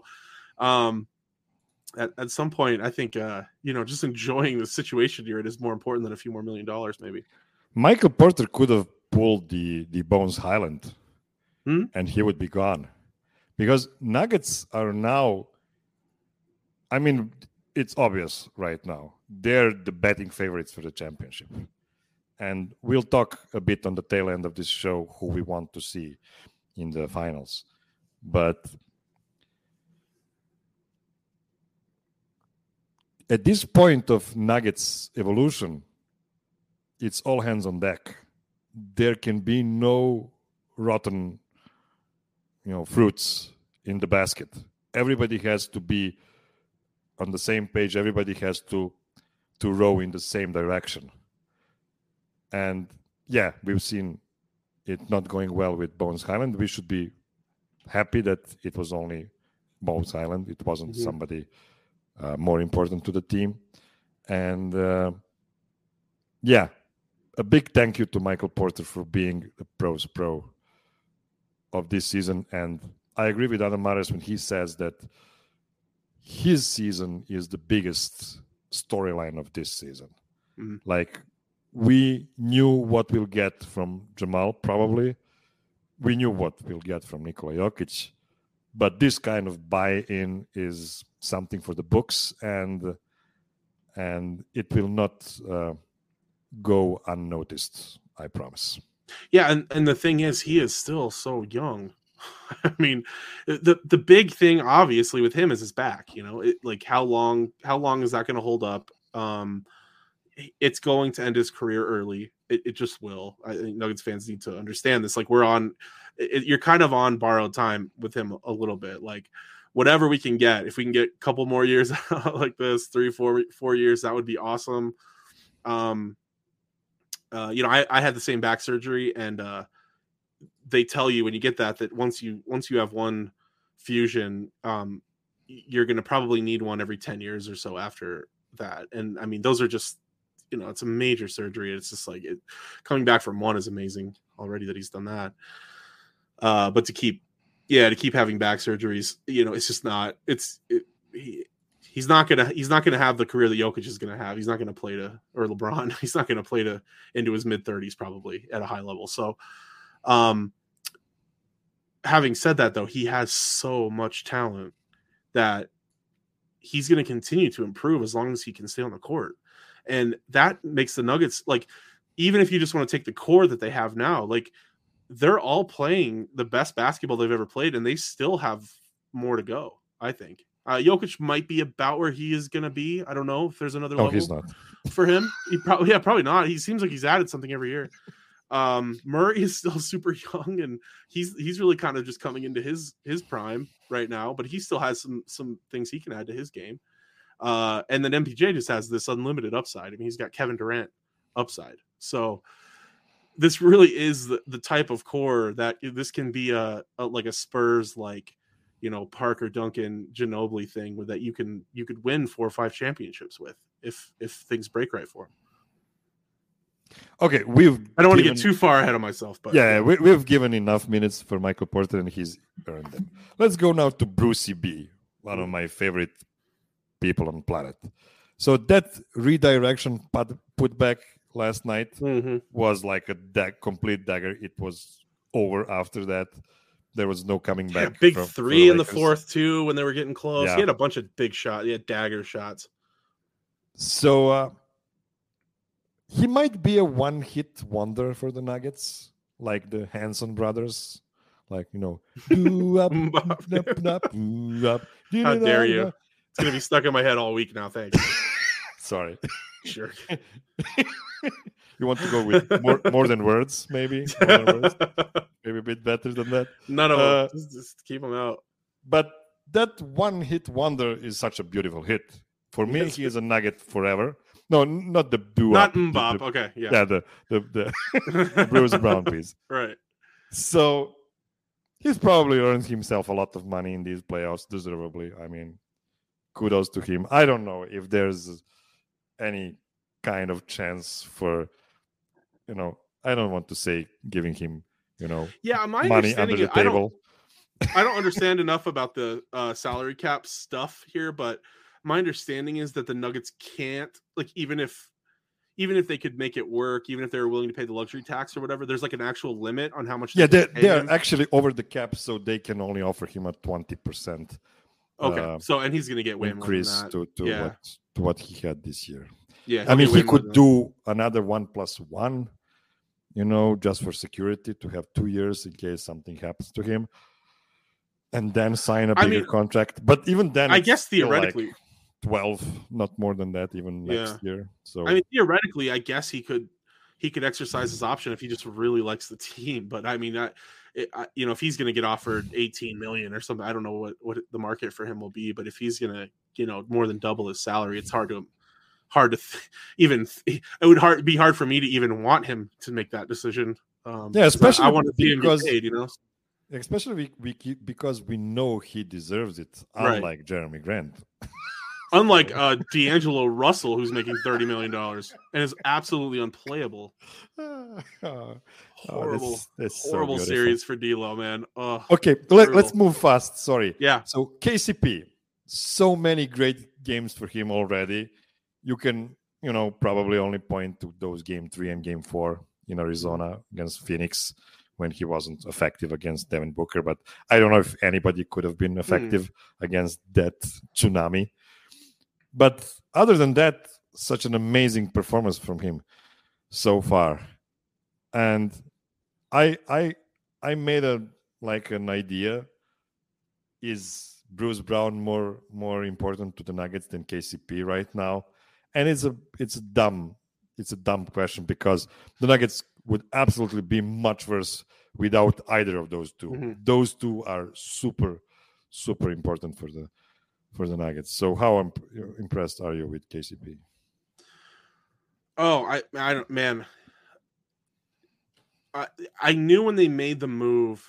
at some point, I think just enjoying the situation you're in is more important than a few more $1 million, maybe. Michael Porter could have pulled the Bones Highland, and he would be gone, because Nuggets are now. It's obvious right now. They're the betting favorites for the championship. And we'll talk a bit on the tail end of this show who we want to see in the finals. But at this point of Nuggets evolution, it's all hands on deck. There can be no rotten, fruits in the basket. Everybody has to be on the same page. Everybody has to row in the same direction. And yeah, we've seen it not going well with Bones Highland. We should be happy that it was only Bones Highland. It wasn't somebody more important to the team. And yeah, a big thank you to Michael Porter for being the pros pro of this season. And I agree with Adam Mares when he says that his season is the biggest storyline of this season. Like, we knew what we'll get from Jamal, probably. We knew what we'll get from Nikola Jokic. But this kind of buy-in is something for the books, and it will not go unnoticed, I promise. Yeah, and the thing is, he is still so young. I mean, the big thing, obviously, with him is his back. Like how long is that going to hold up? It's going to end his career early. It just will. I think Nuggets fans need to understand this. Like, you're kind of on borrowed time with him a little bit. Like, whatever we can get, if we can get a couple more years like this, 3-4 years, that would be awesome. I had the same back surgery, and they tell you when you get that once you have one fusion, you're going to probably need one every 10 years or so after that. And I mean, those are just, it's a major surgery. It's just like coming back from one is amazing already that he's done that. But to keep having back surgeries, it's just not, he's not going to have the career that Jokic is going to have. He's not going to play or LeBron, he's not going to play into his mid 30s probably at a high level. So, having said that, though, he has so much talent that he's going to continue to improve as long as he can stay on the court. And that makes the Nuggets, like, even if you just want to take the core that they have now, like, they're all playing the best basketball they've ever played, and they still have more to go, I think. Jokic might be about where he is going to be. I don't know if there's another level he's not. For him. Probably not. He seems like he's added something every year. Murray is still super young, and he's really kind of just coming into his prime right now, but he still has some things he can add to his game. And then MPJ just has this unlimited upside. I mean, he's got Kevin Durant upside. So this really is the type of core that this can be a like a Spurs, like, Parker, Duncan, Ginobili thing that you could win 4 or 5 championships with if things break right for him. Okay, I don't want to get too far ahead of myself, but we've given enough minutes for Michael Porter, and he's earned them. Let's go now to Brucey B, one of my favorite people on the planet. So that redirection put back last night was like a complete dagger. It was over after that. There was no coming back. Big three in the fourth too when they were getting close. Yeah. He had a bunch of big shots. He had dagger shots. So he might be a one-hit wonder for the Nuggets, like the Hanson brothers. Like, How dare you? It's going to be stuck in my head all week now. Thanks. Sorry. Sure. You want to go with more than words, maybe? More than words? Maybe a bit better than that? None of them. Just keep them out. But that one-hit wonder is such a beautiful hit. For me, he is a Nugget forever. No, not the Not Mbop. Okay, yeah. Yeah, the Bruce Brown piece. Right. So he's probably earned himself a lot of money in these playoffs, deservedly. I mean, kudos to him. I don't know if there's any kind of chance for, I don't want to say giving him, money under the table. I don't understand enough about the salary cap stuff here, but my understanding is that the Nuggets can't, like, even if they could make it work, even if they were willing to pay the luxury tax or whatever, there's like an actual limit on how much. Yeah, they're actually over the cap, so they can only offer him a 20%. Okay, so and he's going to get way increase more than that. to what he had this year. Yeah, I mean, he could do another 1+1, just for security, to have 2 years in case something happens to him, and then sign a bigger contract. But even then, I guess theoretically, like 12, not more than that, even next year. So I mean, theoretically, I guess he could exercise his option if he just really likes the team. But I mean, if he's going to get offered 18 million or something, I don't know what the market for him will be, but if he's going to, more than double his salary, it's hard to it would be hard for me to even want him to make that decision. Especially I want to see him get paid, Especially because we know he deserves it, unlike Jeremy Grant. Unlike D'Angelo Russell, who's making $30 million and is absolutely unplayable. Horrible, that's horrible so series for D'Lo, man. Okay, let's move fast. Sorry. Yeah. So KCP, so many great games for him already. You can, probably only point to those game 3 and game 4 in Arizona against Phoenix when he wasn't effective against Devin Booker. But I don't know if anybody could have been effective against that tsunami. But other than that, such an amazing performance from him so far. And I made an idea. Is Bruce Brown more important to the Nuggets than KCP right now? And it's a dumb question, because the Nuggets would absolutely be much worse without either of those two. Mm-hmm. Those two are super, super important for the Nuggets. So how impressed are you with KCP? Oh, I don't, man. I knew when they made the move.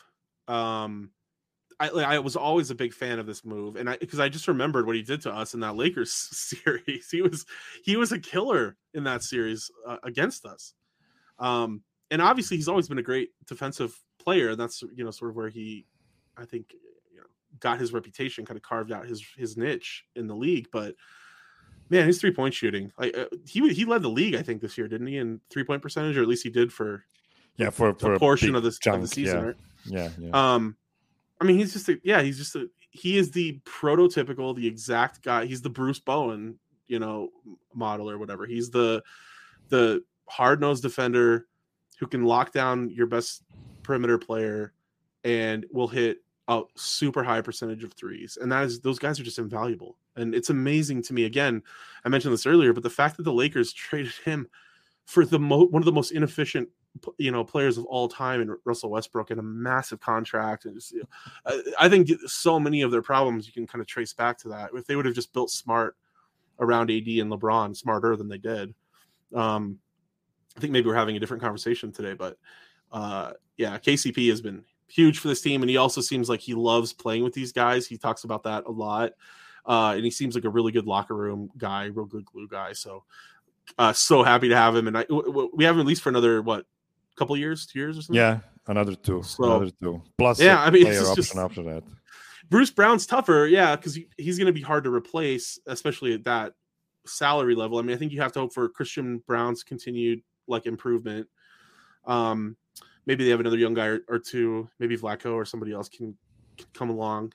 I was always a big fan of this move, and because I just remembered what he did to us in that Lakers series. He was a killer in that series against us. And obviously he's always been a great defensive player. And that's, sort of where he, I think, got his reputation, kind of carved out his niche in the league. But man, his 3-point shooting, he led the league, I think, this year, didn't he, in 3-point percentage, or at least he did for a portion of the season, right? Yeah. I mean, he is the prototypical, the exact guy. He's the Bruce Bowen, model or whatever. He's the hard-nosed defender who can lock down your best perimeter player and will hit a super high percentage of threes. And those guys are just invaluable. And it's amazing to me. Again, I mentioned this earlier, but the fact that the Lakers traded him for one of the most inefficient, players of all time in Russell Westbrook, and a massive contract. And just, I think so many of their problems you can kind of trace back to that. If they would have just built smart around AD and LeBron, smarter than they did. I think maybe we're having a different conversation today, but KCP has been huge for this team. And he also seems like he loves playing with these guys. He talks about that a lot. And he seems like a really good locker room guy, real good glue guy. So happy to have him. And we have him at least for another, couple years, 2 years or something? Yeah, another two. Plus, it's option after that. Bruce Brown's tougher, because he's going to be hard to replace, especially at that salary level. I mean, I think you have to hope for Christian Brown's continued improvement. Maybe they have another young guy or two. Maybe Vlatko or somebody else can come along.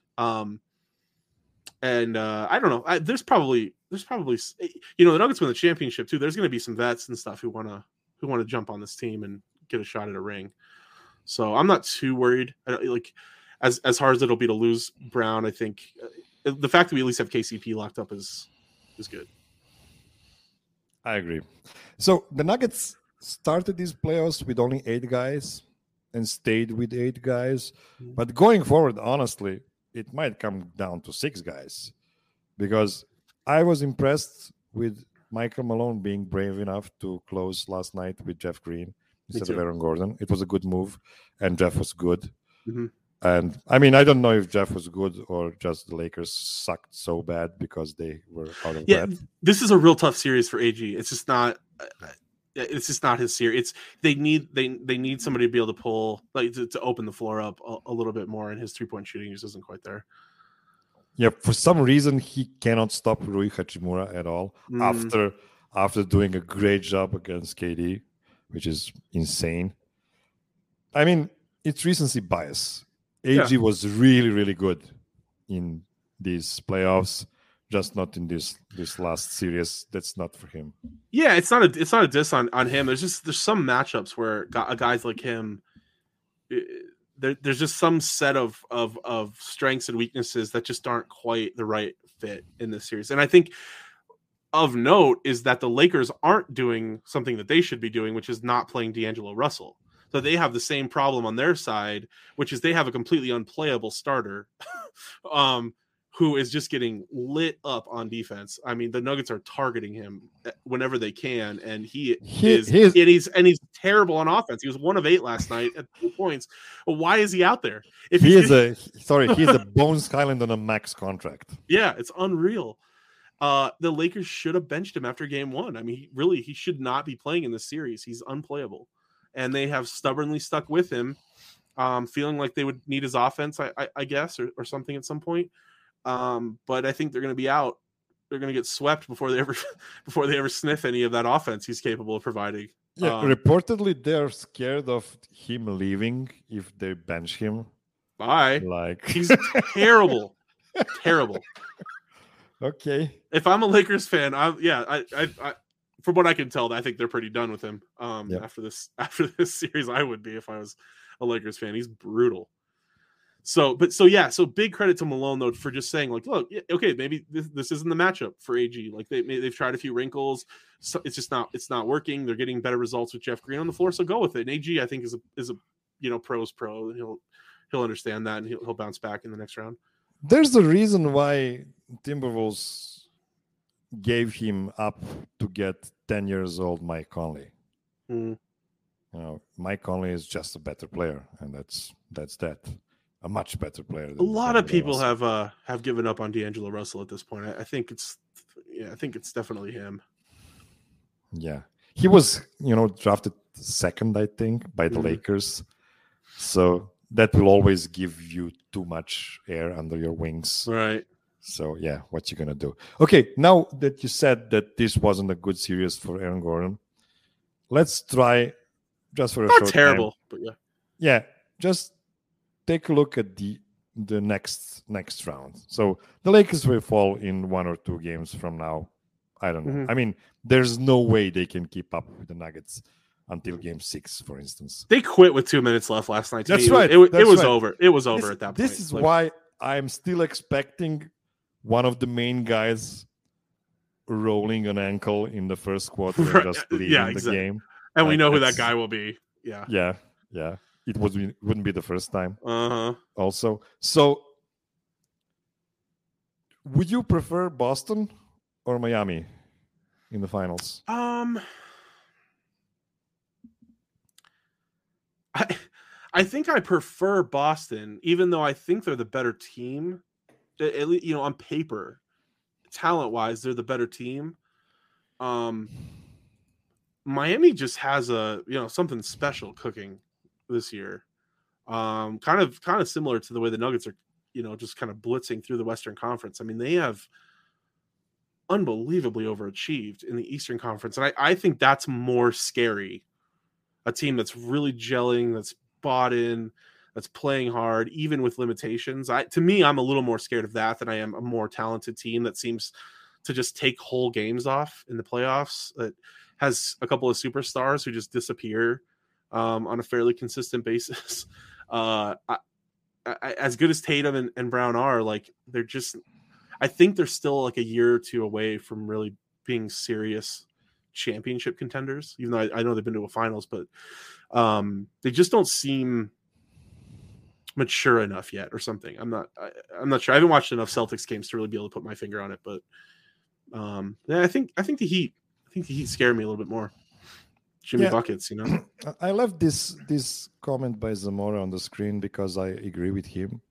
And I don't know. There's probably the Nuggets win the championship too. There's going to be some vets and stuff who want to jump on this team and get a shot at a ring. So I'm not too worried. As hard as it'll be to lose Brown, I think the fact that we at least have KCP locked up is good. I agree. So the Nuggets started these playoffs with only 8 guys and stayed with 8 guys. But going forward, honestly, it might come down to 6 guys, because I was impressed with Michael Malone being brave enough to close last night with Jeff Green instead of Aaron Gordon. It was a good move, and Jeff was good. Mm-hmm. And I mean, I don't know if Jeff was good or just the Lakers sucked so bad because they were out of breath. This is a real tough series for AG. It's just not. It's just not his series. They need somebody to be able to pull, to open the floor up a little bit more, and his 3-point shooting just isn't quite there. Yeah, for some reason he cannot stop Rui Hachimura at all after doing a great job against KD, which is insane. I mean, it's recency bias. AG was really, really good in these playoffs, just not in this last series. That's not for him. Yeah, it's not a diss on him. There's some matchups where guys like him, there's just some set of strengths and weaknesses that just aren't quite the right fit in this series. And I think of note is that the Lakers aren't doing something that they should be doing, which is not playing D'Angelo Russell. So they have the same problem on their side, which is they have a completely unplayable starter who is just getting lit up on defense. I mean, the Nuggets are targeting him whenever they can, and he's terrible on offense. He was 1 of 8 last night at 2 points. Well, why is he out there? He's a Bones Highland on a max contract. Yeah, it's unreal. The Lakers should have benched him after game 1. I mean, he should not be playing in this series. He's unplayable. And they have stubbornly stuck with him, feeling like they would need his offense, I guess, or something at some point. But I think they're going to be out. They're going to get swept before they ever sniff any of that offense he's capable of providing. Yeah, reportedly they're scared of him leaving if they bench him. Bye. Like he's terrible, terrible. Okay. If I'm a Lakers fan, I from what I can tell, I think they're pretty done with him. After this series, I would be if I was a Lakers fan. He's brutal. So big credit to Malone though for just saying like, look, okay, maybe this isn't the matchup for AG. Like they've tried a few wrinkles, so it's not working. They're getting better results with Jeff Green on the floor, so go with it. And AG I think is a pro's pro. He'll understand that and he'll bounce back in the next round. There's a reason why Timberwolves gave him up to get 10 years old Mike Conley. Mike Conley is just a better player, and that's that. A much better player. A lot of people have given up on D'Angelo Russell at this point. I think it's definitely him. Yeah, he was drafted second, I think, by the Lakers. So that will always give you too much air under your wings. Right. So yeah, what you gonna do? Okay, now that you said that this wasn't a good series for Aaron Gordon, let's try just for a short terrible, time. But yeah, just take a look at the next round. So the Lakers will fall in 1 or 2 games from now. I don't know. I mean, there's no way they can keep up with the Nuggets until game 6, for instance. They quit with 2 minutes left last night. That's right. It was over. It was over at that point. This is why I'm still expecting one of the main guys rolling an ankle in the first quarter and just leaving the game. And we know who that guy will be. Yeah. Yeah. It wouldn't be the first time. Uh-huh. Also, so would you prefer Boston or Miami in the finals? I think I prefer Boston, even though I think they're the better team. At least, on paper, talent-wise, they're the better team. Miami just has something special cooking this year. Kind of similar to the way the Nuggets are, just kind of blitzing through the Western Conference. I mean, they have unbelievably overachieved in the Eastern Conference. And I think that's more scary. A team that's really gelling, that's bought in, that's playing hard, even with limitations. To me, I'm a little more scared of that than I am a more talented team that seems to just take whole games off in the playoffs, that has a couple of superstars who just disappear on a fairly consistent basis. As good as Tatum and Brown are, like, they're just, I think they're still like a year or 2 away from really being serious championship contenders, even though I know they've been to a finals, but they just don't seem mature enough yet or something. I'm not sure. I haven't watched enough Celtics games to really be able to put my finger on it, but I think the Heat scare me a little bit more. Jimmy buckets, I left this comment by Zamora on the screen because I agree with him.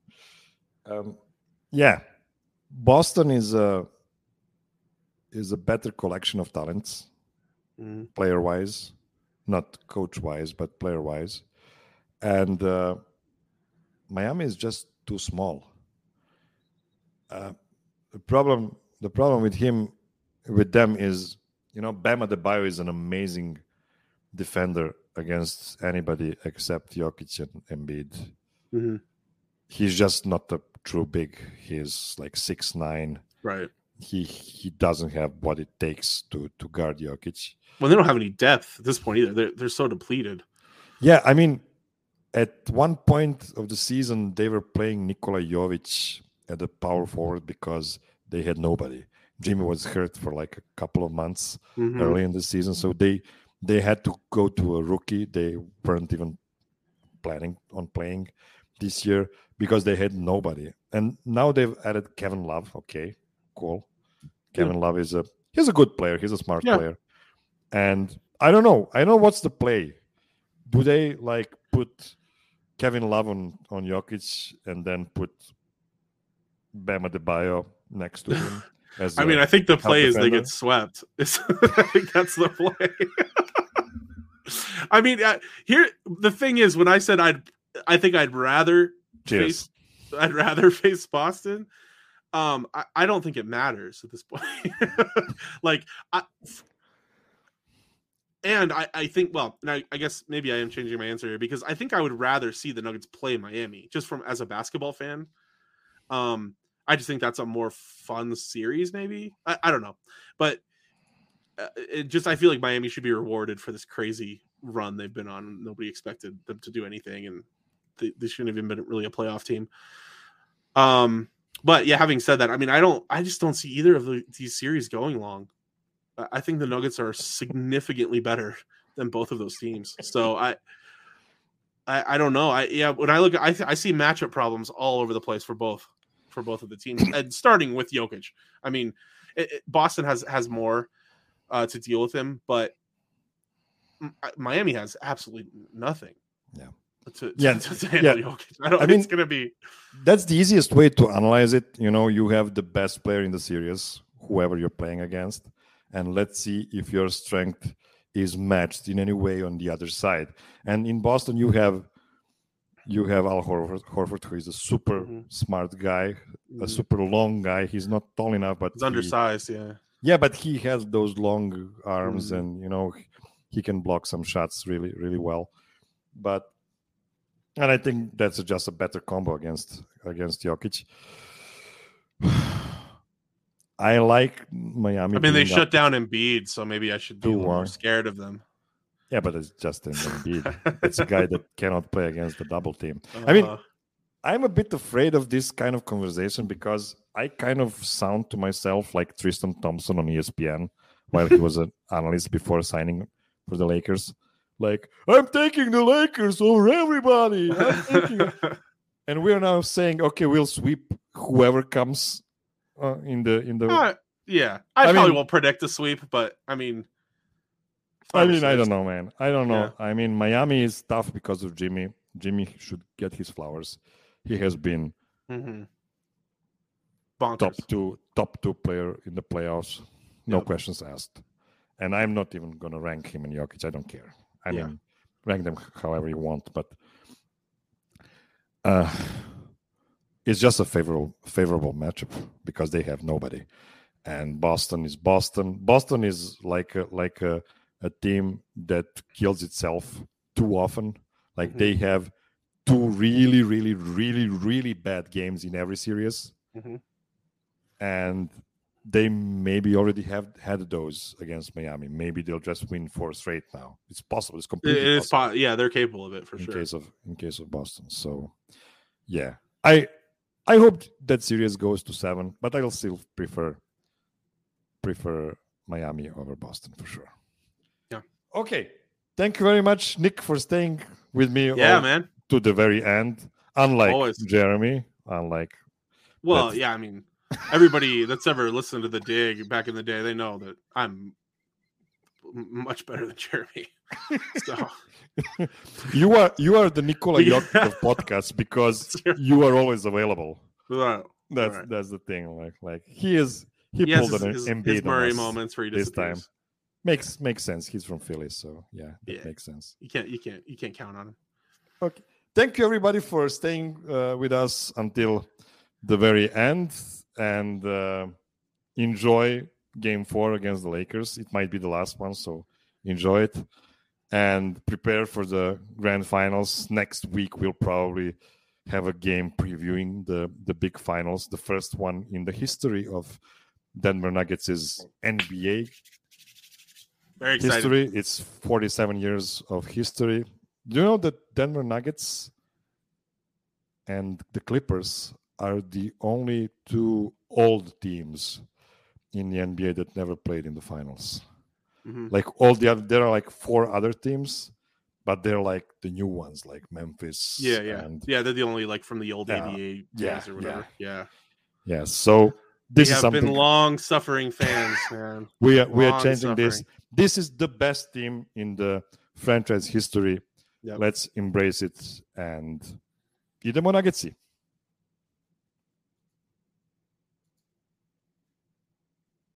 Boston is a better collection of talents, player-wise, not coach-wise, but player-wise, and Miami is just too small. The problem with them is, Bam Adebayo is an amazing defender against anybody except Jokic and Embiid. Mm-hmm. He's just not a true big. He's like 6'9". Right. He doesn't have what it takes to guard Jokic. Well, they don't have any depth at this point either. They're so depleted. Yeah, I mean, at one point of the season, they were playing Nikola Jovic at the power forward because they had nobody. Jimmy was hurt for like a couple of months early in the season, so they had to go to a rookie. They weren't even planning on playing this year because they had nobody. And now they've added Kevin Love. Okay, cool. Kevin Love he's a good player. He's a smart player. And I don't know. I know what's the play. Do they like put Kevin Love on Jokic and then put Bam Adebayo next to him? I mean, I think the play is they get swept. I think that's the play. I mean, here the thing is, when I said I think I'd rather face Boston. I don't think it matters at this point. I think, well, and I guess maybe I am changing my answer here because I think I would rather see the Nuggets play Miami just as a basketball fan. I just think that's a more fun series, maybe. I don't know, but I feel like Miami should be rewarded for this crazy run they've been on. Nobody expected them to do anything, and they shouldn't have even been really a playoff team. But yeah, having said that, I mean, I just don't see either of these series going long. I think the Nuggets are significantly better than both of those teams. So I don't know. When I look, I see matchup problems all over the place for both of the teams, and starting with Jokic. I mean, Boston has more to deal with him, but Miami has absolutely nothing. Yeah. To handle Jokic. It's going to be. That's the easiest way to analyze it. You have the best player in the series, whoever you're playing against, and let's see if your strength is matched in any way on the other side. And in Boston, you have Al Horford, who is a super smart guy, a super long guy. He's not tall enough, but he's undersized. Yeah. Yeah, but he has those long arms, and he can block some shots really, really well. And I think that's just a better combo against Jokic. I like Miami. I mean, they shut down Embiid, so maybe I should be more scared of them. Yeah, but it's just Embiid. It's a guy that cannot play against the double team. I mean, I'm a bit afraid of this kind of conversation because I kind of sound to myself like Tristan Thompson on ESPN while he was an analyst before signing for the Lakers. Like, I'm taking the Lakers over everybody. And we're now saying, okay, we'll sweep whoever comes in the. Yeah, I probably won't predict a sweep, but I mean, I don't know, man. I don't know. Yeah. I mean, Miami is tough because of Jimmy. Jimmy should get his flowers. He has been top two player in the playoffs, no questions asked. And I'm not even going to rank him and Jokic. I don't care. I mean, rank them however you want, but it's just a favorable matchup because they have nobody, and Boston is Boston. Boston is like a team that kills itself too often. Like they have two really, really, really, really bad games in every series, and they maybe already have had those against Miami. Maybe they'll just win 4 straight now. It's possible. It's completely possible. Yeah, they're capable of it for sure. In case of Boston. So, yeah, I hope that series goes to 7, but I'll still prefer Miami over Boston for sure. Yeah. Okay. Thank you very much, Nick, for staying with me. Man. To the very end. Unlike Jeremy. I mean. Everybody that's ever listened to The Dig back in the day, they know that I'm much better than Jeremy. So you are the Nikola Jokic of podcasts because you are always available. That's the thing. Like he pulled an Embiid his Murray moments where he this time. Makes sense. He's from Philly, so that makes sense. You can't count on him. Okay. Thank you everybody for staying with us until the very end. And enjoy Game 4 against the Lakers. It might be the last one, so enjoy it. And prepare for the grand finals. Next week, we'll probably have a game previewing the big finals, the first one in the history of Denver Nuggets' NBA Very excited. history. It's 47 years of history. Do you know that Denver Nuggets and the Clippers are the only 2 old teams in the NBA that never played in the finals? Like all the other, there are like 4 other teams, but they're like the new ones, like Memphis. Yeah, yeah, and yeah. They're the only like from the old Yeah, 88 yeah, days or whatever. Yeah. yeah. So We this is have something been long-suffering fans, man. we are Long changing this. suffering. This is the best team in the franchise history. Yep. Let's embrace it and idemo Nuggetsi.